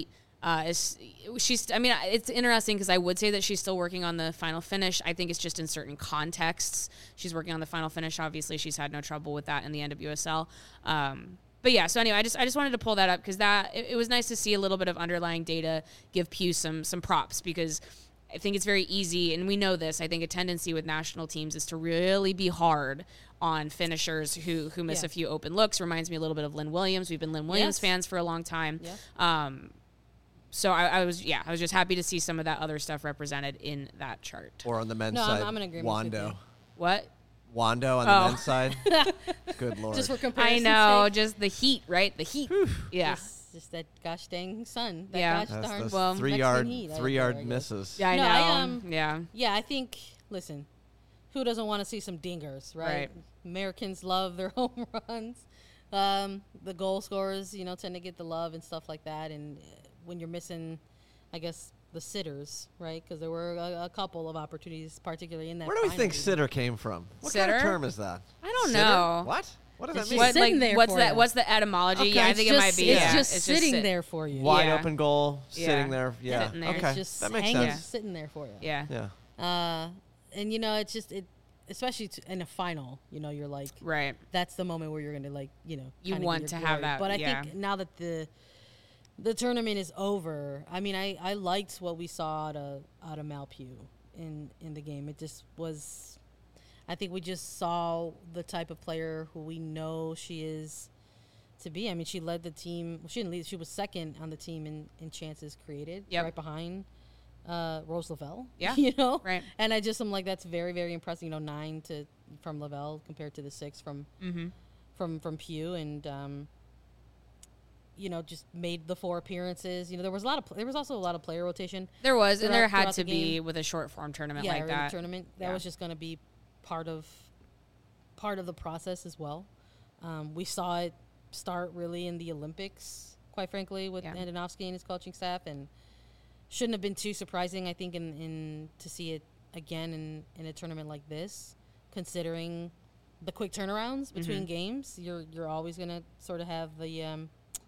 I mean, it's interesting because I would say that she's still working on the final finish. I think it's just in certain contexts. She's working on the final finish. Obviously, she's had no trouble with that in the NWSL. But yeah, so anyway, I just wanted to pull that up because it was nice to see a little bit of underlying data give Pew some props, because I think it's very easy, and we know this. I think a tendency with national teams is to really be hard on finishers who miss a few open looks. Reminds me a little bit of Lynn Williams. We've been Lynn Williams fans for a long time. Yeah. So I was just happy to see some of that other stuff represented in that chart. Or on the men's side, I'm in agreement with you. What? Wando on the men's side. Good Lord. Just for comparison. I know, sake. just the heat, right? The heat. Yeah. Just that gosh dang sun. That gosh darn those Mexican three yard misses. Yeah, I know. Yeah, I think, listen, who doesn't want to see some dingers, right? Americans love their home runs. The goal scorers, tend to get the love and stuff like that. And when you're missing, I guess, the sitters, right? Because there were a couple of opportunities, particularly in that. Where do we think sitter came from? What kind of term is that? I don't know. What? What does that It's mean? just sitting there what's for that? you. What's the etymology? Okay, Yeah, I think it might be. It's just sitting there for you. Wide open goal, Yeah. sitting there. Yeah. Sitting there. Okay. It's just that makes hanging, sense. sitting there for you. Yeah. Yeah. And it's just especially in a final, you're like, Right. that's the moment where you're going to You kinda want get to your have glory. that. But I think now that the tournament is over, I mean, I liked what we saw out of Malpew in the game. It just was, I think we just saw the type of player who we know she is to be. I mean, she led the team. Well, she didn't lead. She was second on the team in chances created, right behind Rose Lavelle. Yeah. Right. And I'm like, that's very, very impressive. 9 from Lavelle compared to the 6 from Pew, and just made the 4 appearances. There was also a lot of player rotation. There was, and there had throughout to the be game. with a short form tournament Yeah, like that. Tournament that was just going to be part of the process as well. We saw it start really in the Olympics, quite frankly, with Andonovski and his coaching staff, and shouldn't have been too surprising, I think, in to see it again in a tournament like this, considering the quick turnarounds between games. You're always going to sort of have the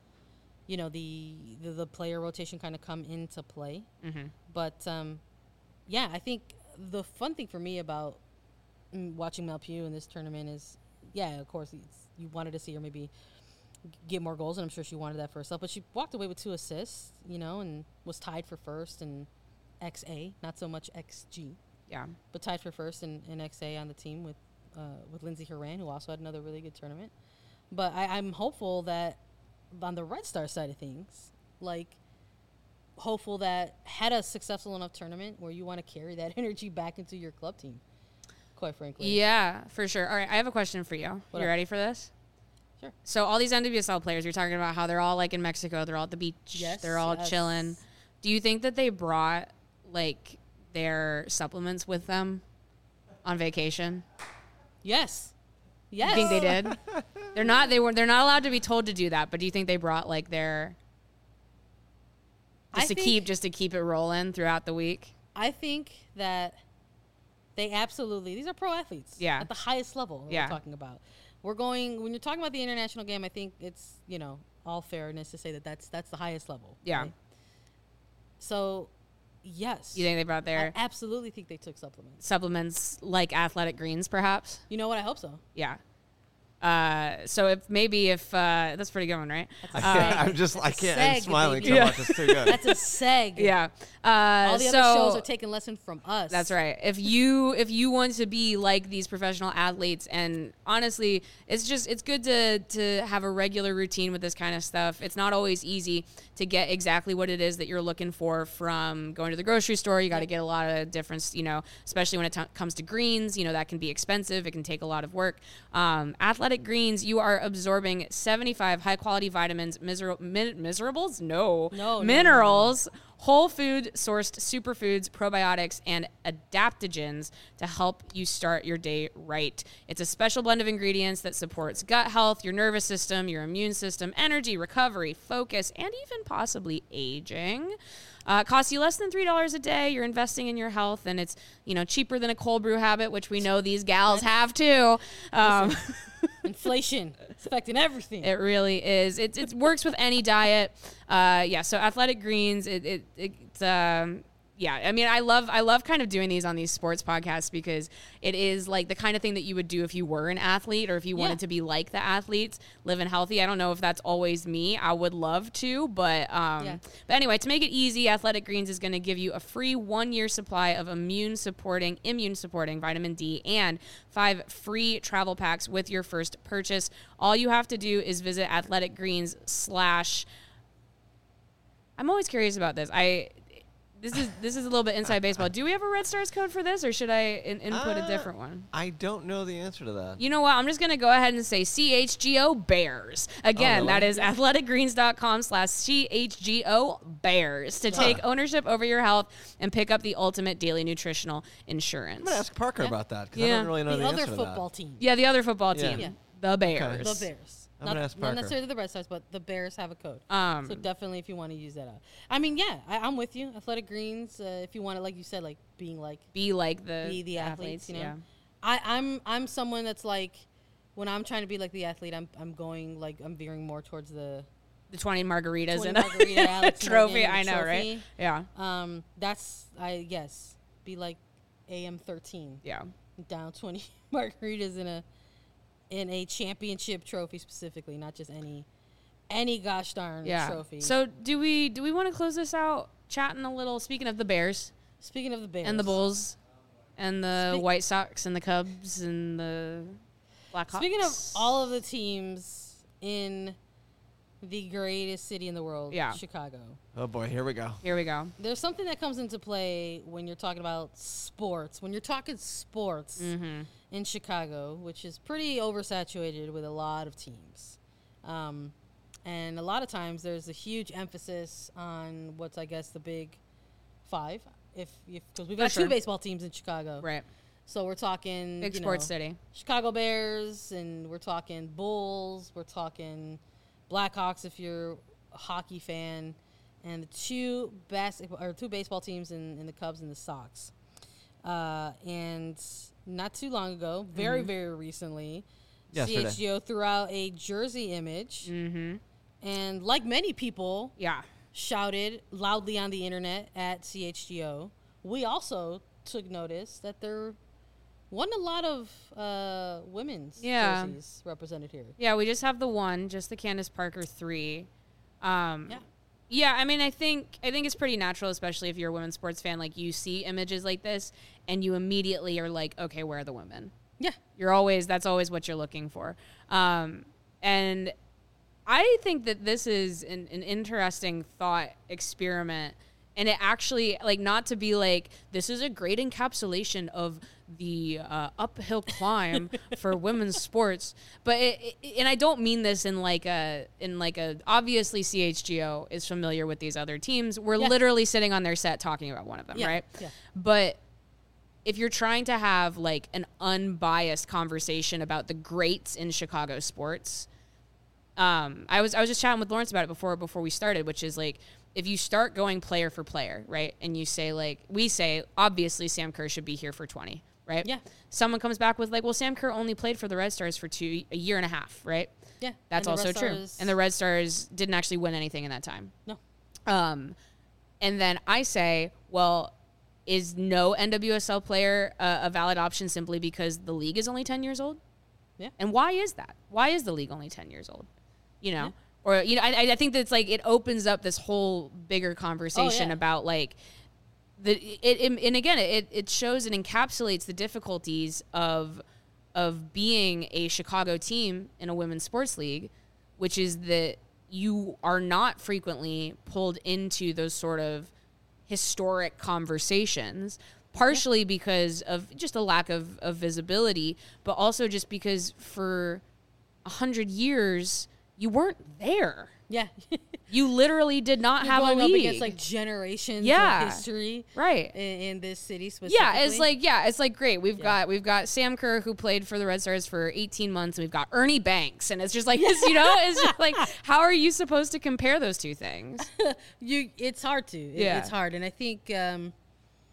the player rotation kind of come into play. But I think the fun thing for me about watching Malpew in this tournament is, of course, you wanted to see her maybe get more goals, and I'm sure she wanted that for herself. But she walked away with 2 assists, and was tied for first in XA, not so much XG. Yeah. But tied for first in XA on the team with Lindsay Horan, who also had another really good tournament. But I'm hopeful that on the Red Star side of things, hopeful that had a successful enough tournament where you want to carry that energy back into your club team, quite frankly. Yeah, for sure. All right, I have a question for you. You ready for this? Sure. So all these NWSL players, you're talking about how they're all in Mexico, they're all at the beach, they're all chilling. Do you think that they brought their supplements with them on vacation? Yes. You think they did? They're not allowed to be told to do that, but do you think they brought their just to keep it rolling throughout the week? I think that they absolutely, these are pro athletes at the highest level we're talking about. When you're talking about the international game, I think it's, all fairness to say that that's the highest level. Yeah. Right? So, yes. You think they brought their... I absolutely think they took supplements. Supplements like Athletic Greens, perhaps? You know what? I hope so. Yeah. So if that's a pretty good one, right? I'm smiling so much. It's too good. That's a seg. Yeah. All the other shows are taking lesson from us. That's right. If you want to be like these professional athletes, and honestly, it's good to have a regular routine with this kind of stuff. It's not always easy to get exactly what it is that you're looking for from going to the grocery store. You got to get a lot of different, especially when it comes to greens, that can be expensive. It can take a lot of work. Athletic Greens, you are absorbing 75 high-quality vitamins, minerals, whole food sourced superfoods, probiotics, and adaptogens to help you start your day right. It's a special blend of ingredients that supports gut health, your nervous system, your immune system, energy, recovery, focus, and even possibly aging. It costs you less than $3 a day. You're investing in your health, and it's cheaper than a cold brew habit, which we know these gals have too. Inflation. It's affecting everything. It really is. It works with any diet. Yeah. So Athletic Greens. Yeah, I mean, I love kind of doing these on these sports podcasts because it is like the kind of thing that you would do if you were an athlete or if you wanted to be like the athletes, living healthy. I don't know if that's always me. I would love to, but anyway, to make it easy, Athletic Greens is going to give you a free 1-year supply of immune supporting vitamin D and 5 free travel packs with your first purchase. All you have to do is visit Athletic Greens / I'm always curious about this. This is a little bit inside baseball. Do we have a Red Stars code for this, or should I input a different one? I don't know the answer to that. You know what? I'm just going to go ahead and say CHGO Bears. Again, that is athleticgreens.com/CHGO Bears to take ownership over your health and pick up the ultimate daily nutritional insurance. I'm going to ask Parker about that because I don't really know the answer other to that. football team. Yeah, the other football team. Yeah. The Bears. Okay. The Bears. I'm gonna ask Parker. Not necessarily the Red Stars, but the Bears have a code. So definitely if you want to use that out. I mean, yeah, I'm with you. Athletic Greens, if you want to, like you said, like being like. Be like the athletes, you know? Yeah. I'm someone that's like, when I'm trying to be like the athlete, I'm going like, I'm veering more towards the 20 margaritas 20 and a margarita Alex trophy. Morgan I know, trophy. right? Yeah. That's, I guess, be like AM13. Yeah. Down 20 margaritas in a championship trophy specifically, not just any gosh darn trophy. So do we want to close this out chatting a little? Speaking of the Bears, speaking of the Bears and the Bulls, and the White Sox and the Cubs and the Blackhawks. Speaking of all of the teams in the greatest city in the world, Chicago. Oh boy, here we go. Here we go. There's something that comes into play when you're talking about sports. When you're talking sports in Chicago, which is pretty oversaturated with a lot of teams. And a lot of times there's a huge emphasis on what's, I guess, the big five. Because we've got two baseball teams in Chicago. Right. So we're talking big sports city. Chicago Bears, and we're talking Bulls, we're talking Blackhawks if you're a hockey fan, and the two baseball teams in the Cubs and the Sox. And not too long ago, very, very recently, Yesterday. CHGO threw out a jersey image. And like many people shouted loudly on the internet at CHGO, we also took notice that there wasn't a lot of women's jerseys represented here. Yeah, we just have the one, just the Candace Parker 3. Yeah, I mean, I think it's pretty natural, especially if you're a women's sports fan. Like, you see images like this, and you immediately are like, okay, where are the women? Yeah. That's always what you're looking for. And I think that this is an interesting thought experiment. And it actually, like, not to be like, this is a great encapsulation of the uphill climb for women's sports, but and I don't mean this in like a obviously CHGO is familiar with these other teams. We're literally sitting on their set talking about one of them, right? Yeah. But if you're trying to have like an unbiased conversation about the greats in Chicago sports, I was just chatting with Lawrence about it before we started, which is like, if you start going player for player, right, and you say, like, we say, obviously Sam Kerr should be here for 20, right? Yeah. Someone comes back with, like, well, Sam Kerr only played for the Red Stars for a year and a half, right? Yeah. That's also true. And the Red Stars didn't actually win anything in that time. No. And then I say, well, is no NWSL player a valid option simply because the league is only 10 years old? Yeah. And why is that? Why is the league only 10 years old? You know? Yeah. Or, you know, I think that's like, it opens up this whole bigger conversation about like and again, it shows and encapsulates the difficulties of being a Chicago team in a women's sports league, which is that you are not frequently pulled into those sort of historic conversations, partially because of just a lack of visibility, but also just because for 100 years, you weren't there. Yeah. You literally did not have a league. Going up against like generations of history. Right. In this city specifically. It's like great. We've got Sam Kerr, who played for the Red Stars for 18 months, and we've got Ernie Banks, and it's just like, it's just like, how are you supposed to compare those two things? It's hard to. It's hard. And I think it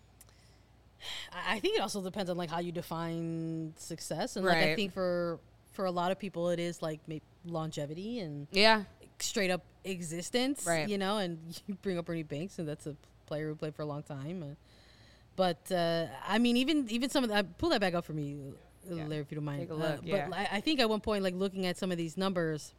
also depends on like how you define success. And like I think for for a lot of people, it is like longevity and Yeah. straight up existence, Right. you know, and you bring up Ernie Banks, and that's a player who played for a long time. But I mean, even some of that, pull that back up for me, Larry, if you don't mind. Take a look, yeah. But I think at one point, like looking at some of these numbers,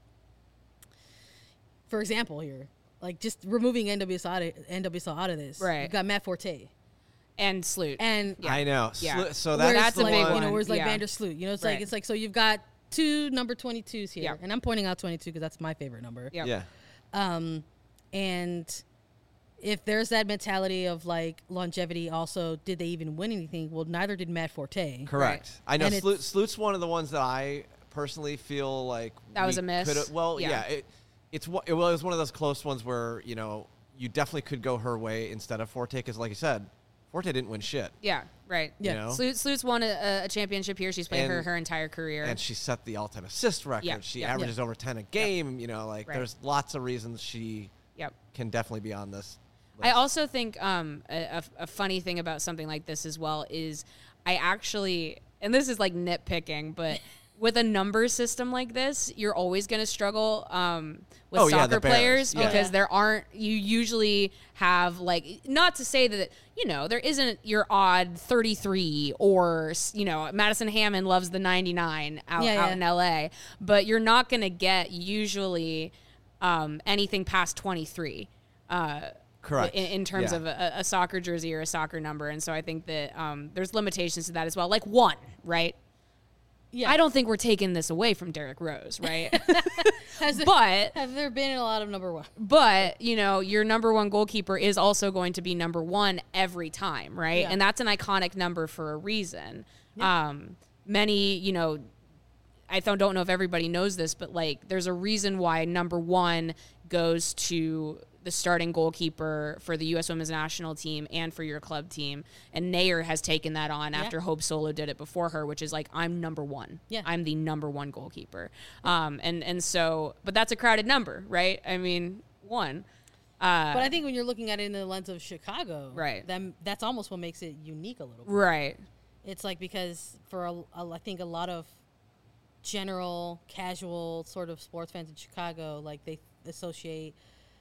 for example, here, like just removing NWSL out of this, Right. You've got Matt Forte, And Sloot. and I know. Yeah. So where's that's the a big one. you know, one. where's like Yeah. Vander Sloot, you know, Right. it's like so you've got two number 22s here, Yeah. and I'm pointing out 22 because that's my favorite number. Yep. Yeah. And if there's that mentality of like longevity, also, did they even win anything? Well, neither did Matt Forte. Correct. I know And Sloot's one of the ones that I personally feel like That was we a miss? coulda- Well, Yeah. yeah. It was one of those close ones where, you know, you definitely could go her way instead of Forte because, like you said, Forte didn't win shit. Yeah, right. Yeah. You know? Sloot's won a championship here. She's played And- her entire career. And she set the all-time assist record. Yeah, She yeah. averages over 10 a game. You know, like Right. there's lots of reasons she Yep. can definitely be on this list. I also think a funny thing about something like this as well is I actually, and this is like nitpicking, but with a number system like this, you're always going to struggle with Oh, yeah, soccer the Bears, players yeah. because you usually have like, not to say that, you know, there isn't your odd 33 or, you know, Madison Hammond loves the 99 out in LA, but you're not going to get usually anything past 23. Correct. In terms Yeah. of a soccer jersey or a soccer number. And so I think that there's limitations to that as well. Like one, right? Yeah. I don't think we're taking this away from Derrick Rose, right? Have there been a lot of number one? But, you know, your number one goalkeeper is also going to be number one every time, right? Yeah. And that's an iconic number for a reason. Many, you know, don't know if everybody knows this, but like there's a reason why number one goes to the starting goalkeeper for the U.S. Women's National Team and for your club team. And Nair has taken that on after Hope Solo did it before her, which is like, I'm number one. Yeah. I'm the number one goalkeeper. And so, but that's a crowded number, right? I mean, one. But I think when you're looking at it in the lens of Chicago, Right. that's almost what makes it unique a little bit. Right. It's like because for I think a lot of general, casual sort of sports fans in Chicago, like they associate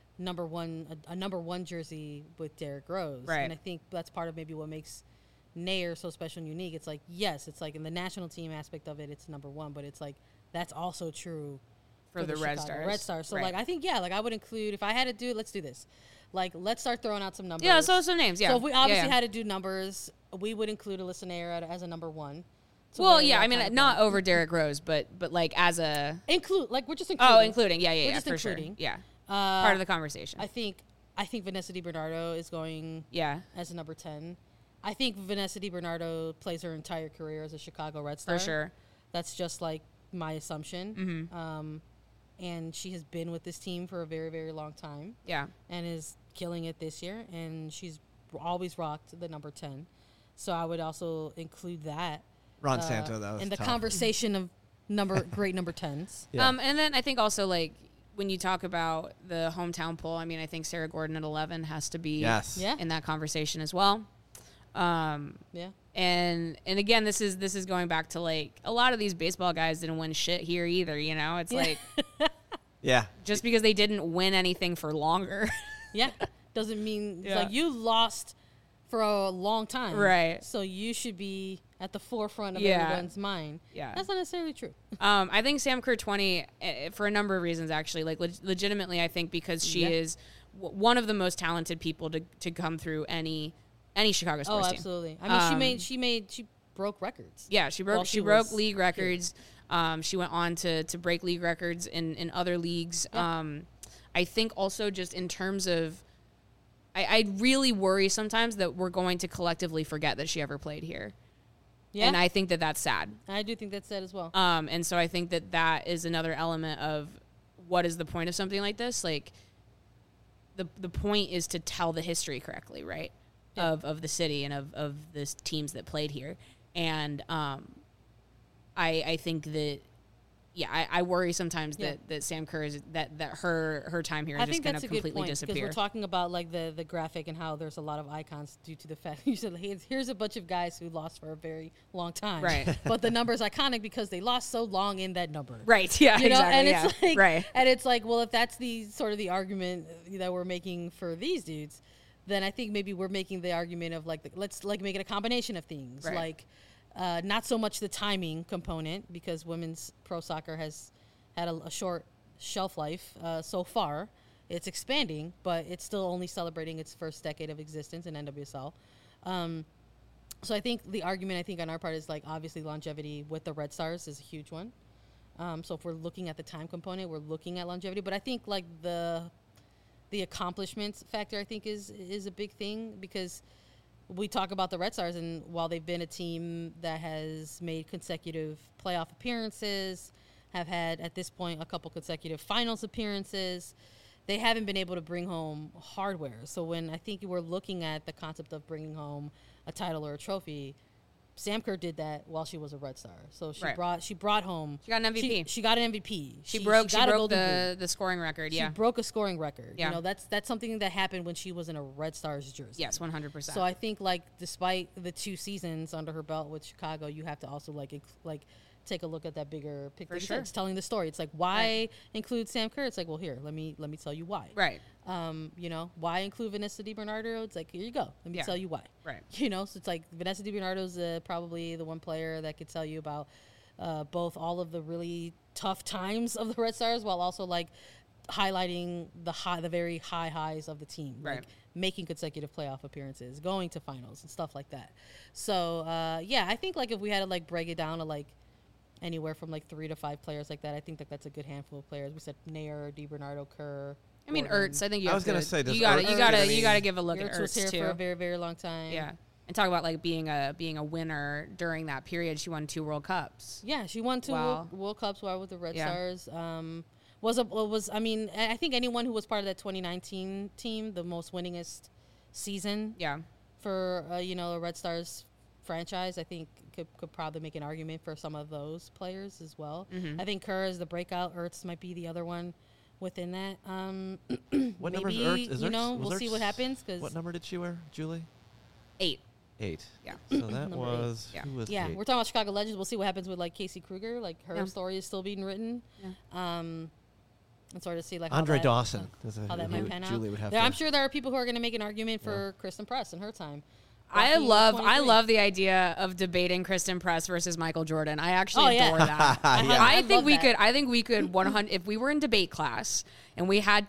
a number one jersey with Derrick Rose. Right. And I think that's part of maybe what makes Nair so special and unique. It's like, yes, it's like in the national team aspect of it, it's number one, but it's like that's also true For the Red Chicago Stars. Red Stars. So Right. like I think I would include, if I had to do it, let's do this. Like let's start throwing out some numbers. Yeah, so some names, yeah. So if we obviously Yeah. had to do numbers, we would include Alyssa Nair as a number one. So Well, where yeah, that I mean, kind of not comes. over Derrick Rose, but like as a We're just including. including, yeah, We're yeah, just for including. sure, yeah, Uh, part of the conversation. I think Vanessa DiBernardo is going Yeah, as a number 10. I think Vanessa DiBernardo plays her entire career as a Chicago Red Star. for sure. That's just like my assumption. Mm-hmm. And she has been with this team for a very, very long time Yeah, and is killing it this year. And she's always rocked the number 10. So I would also include that. Ron Santo, that was in the tough. conversation of great number 10s. Yeah. and then I think also like when you talk about the hometown poll, I mean, I think Sarah Gordon at 11 has to be Yes. Yeah. in that conversation as well. Yeah. And again, this is going back to like a lot of these baseball guys didn't win shit here either. You know, it's like Yeah. just because they didn't win anything for longer. Yeah. Doesn't mean it's Yeah. like you lost for a long time. Right. So you should be at the forefront of Yeah. everyone's mind. Yeah. That's not necessarily true. I think Sam Kerr 20 for a number of reasons actually. Like legitimately, I think because she Yeah. is one of the most talented people to come through any Chicago Oh, sports team. absolutely. I mean, she broke records. Yeah, she broke While she she broke was league records. She went on to break league records in other leagues. Yeah. I think also just in terms of I really worry sometimes that we're going to collectively forget that she ever played here. Yeah. And I think that that's sad. I do think that's sad as well. And so I think that is another element of what is the point of something like this? Like the point is to tell the history correctly, right? Yeah. Of the city and of the teams that played here. And I think that yeah, I worry sometimes that Sam Kerr is that her time here is just going to completely disappear. Because we're talking about like the graphic and how there's a lot of icons due to the fact you said, hey, here's a bunch of guys who lost for a very long time, right? But the number's iconic because they lost so long in that number, right? Yeah, you know, exactly. and it's like, right, and it's like, well, if that's the sort of the argument that we're making for these dudes, then I think maybe we're making the argument of like let's like make it a combination of things, right. like. Not so much the timing component because women's pro soccer has had a short shelf life so far. It's expanding, but it's still only celebrating its first decade of existence in NWSL. So I think the argument on our part is like obviously longevity with the Red Stars is a huge one. So if we're looking at the time component, we're looking at longevity. But I think like the accomplishments factor I think is a big thing because we talk about the Red Stars, and while they've been a team that has made consecutive playoff appearances, have had, at this point, a couple consecutive finals appearances, they haven't been able to bring home hardware. So when I think we're looking at the concept of bringing home a title or a trophy, Sam Kerr did that while she was a Red Star. So she brought home. She got an MVP. She got an MVP. She broke the scoring record. Yeah, she broke a scoring record. Yeah. You know, that's something that happened when she was in a Red Stars jersey. Yes, 100%. So I think like despite the 2 seasons under her belt with Chicago, you have to also like take a look at that bigger picture. For sure. It's telling the story. It's like why include Sam Kerr? It's like, well, here, let me tell you why. Right. You know, why include Vanessa DiBernardo? It's like, here you go. Let me tell you why. Right. You know, so it's like Vanessa DiBernardo's probably the one player that could tell you about both all of the really tough times of the Red Stars while also like highlighting the very high highs of the team. Right. Like making consecutive playoff appearances, going to finals and stuff like that. So, I think like if we had to like break it down to like anywhere from like 3 to 5 players like that, I think that's a good handful of players. We said Nair, DiBernardo, Kerr. I mean, Ertz. I think I was gonna say, you gotta give a look at Ertz was Ertz here too for a very, very long time. Yeah, and talk about like being a winner during that period. She won 2 World Cups. Yeah, she won 2 World Cups while with the Red Stars. I think anyone who was part of that 2019 team, the most winningest season. Yeah. For a Red Stars franchise, I think could probably make an argument for some of those players as well. Mm-hmm. I think Kerr is the breakout. Ertz might be the other one within that. What number is Ertz? We'll see what happens. What number did she wear, Julie? 8. 8. Yeah. So that was who was 8? We're talking about Chicago Legends. We'll see what happens with like Casey Kruger. Like her story is still being written. Yeah. And sort of see like Andre Dawson. How that might pan out. Julie would have I'm sure there are people who are going to make an argument for Kristen Press in her time. I love the idea of debating Kristen Press versus Michael Jordan. I actually adore that. I think we could 100 if we were in debate class and we had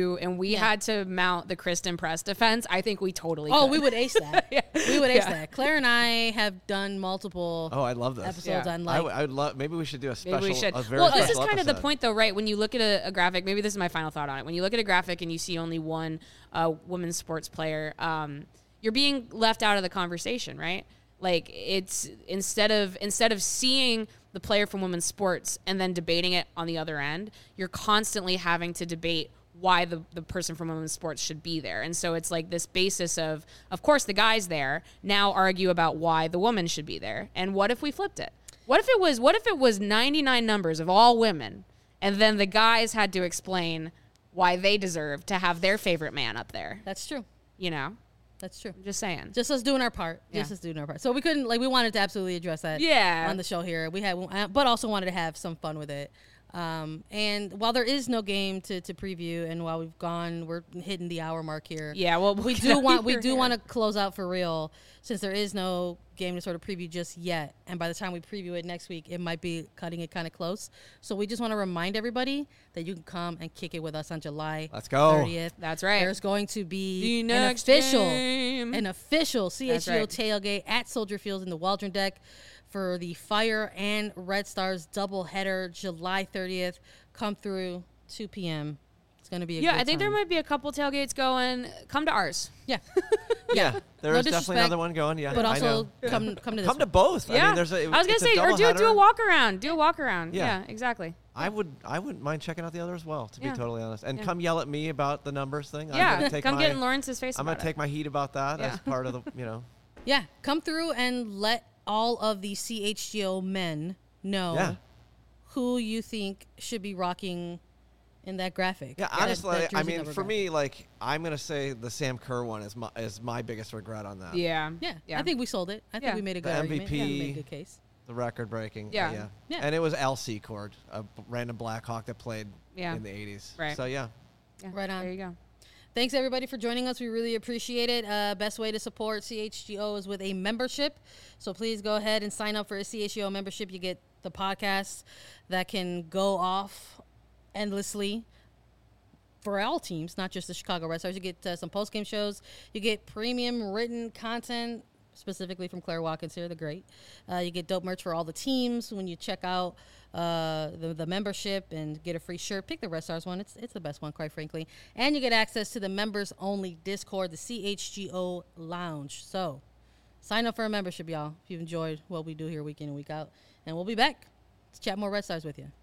to mount the Kristen Press defense. I think we totally could. We would ace that. We would ace that. Claire and I have done multiple I love this. episodes on like I would love maybe we should do a special Maybe we should. This is kind of the point though, right? When you look at a graphic, maybe this is my final thought on it. When you look at a graphic and you see only one women's sports player, you're being left out of the conversation, right? Like it's instead of seeing the player from women's sports and then debating it on the other end, you're constantly having to debate why the person from women's sports should be there. And so it's like this basis of course the guy's there, now argue about why the woman should be there. And what if we flipped it? What if it was 99 numbers of all women and then the guys had to explain why they deserve to have their favorite man up there? That's true. You know? That's true. I'm just saying. Just us doing our part. Yeah. So we couldn't we wanted to absolutely address that on the show here. We had, but also wanted to have some fun with it. And while there is no game to preview, and while we're hitting the hour mark here. Yeah, well, we do want to close out for real, since there is no game to sort of preview just yet. And by the time we preview it next week, it might be cutting it kind of close. So we just want to remind everybody that you can come and kick it with us on July 30th. That's right. There's going to be an official CHGO tailgate at Soldier Field in the Waldron Deck for the Fire and Red Stars doubleheader, July 30th. Come through 2 p.m. It's going to be a good time. I think there might be a couple tailgates going. Come to ours. Yeah. There's definitely another one going. Yeah, but also come to this. Come to both. Yeah. I mean, I was gonna say, or do a walk around. Do a walk around. Yeah. Yeah, exactly. I wouldn't mind checking out the other as well, to be totally honest. And Yeah. come yell at me about the numbers thing. Yeah, come get in Lawrence's face. I'm gonna take my heat about that as part of the Yeah, come through and let all of the CHGO men know who you think should be rocking in that graphic. Yeah, that honestly, jersey I mean, number for graphic. me, like, I'm gonna say the Sam Kerr one is my biggest regret on that. Yeah. Yeah, I think we sold it. I think Yeah. we made a The good argument. Yeah, we made a MVP. good case. The record breaking. Yeah. Yeah. And it was Al Secord, a random Blackhawk that played Yeah. in the 80s. Right. So yeah. Yeah, Right on. There you go. Thanks everybody for joining us. We really appreciate it. Best way to support CHGO is with a membership. So please go ahead and sign up for a CHGO membership. You get the podcasts that can go off endlessly for all teams, not just the Chicago Red Stars. You get some post-game shows. You get premium written content, specifically from Claire Watkins here, the great. You get dope merch for all the teams when you check out the membership and get a free shirt. Pick the Red Stars one. It's the best one, quite frankly. And you get access to the members-only Discord, the CHGO Lounge. So sign up for a membership, y'all, if you've enjoyed what we do here week in and week out. And we'll be back to chat more Red Stars with you.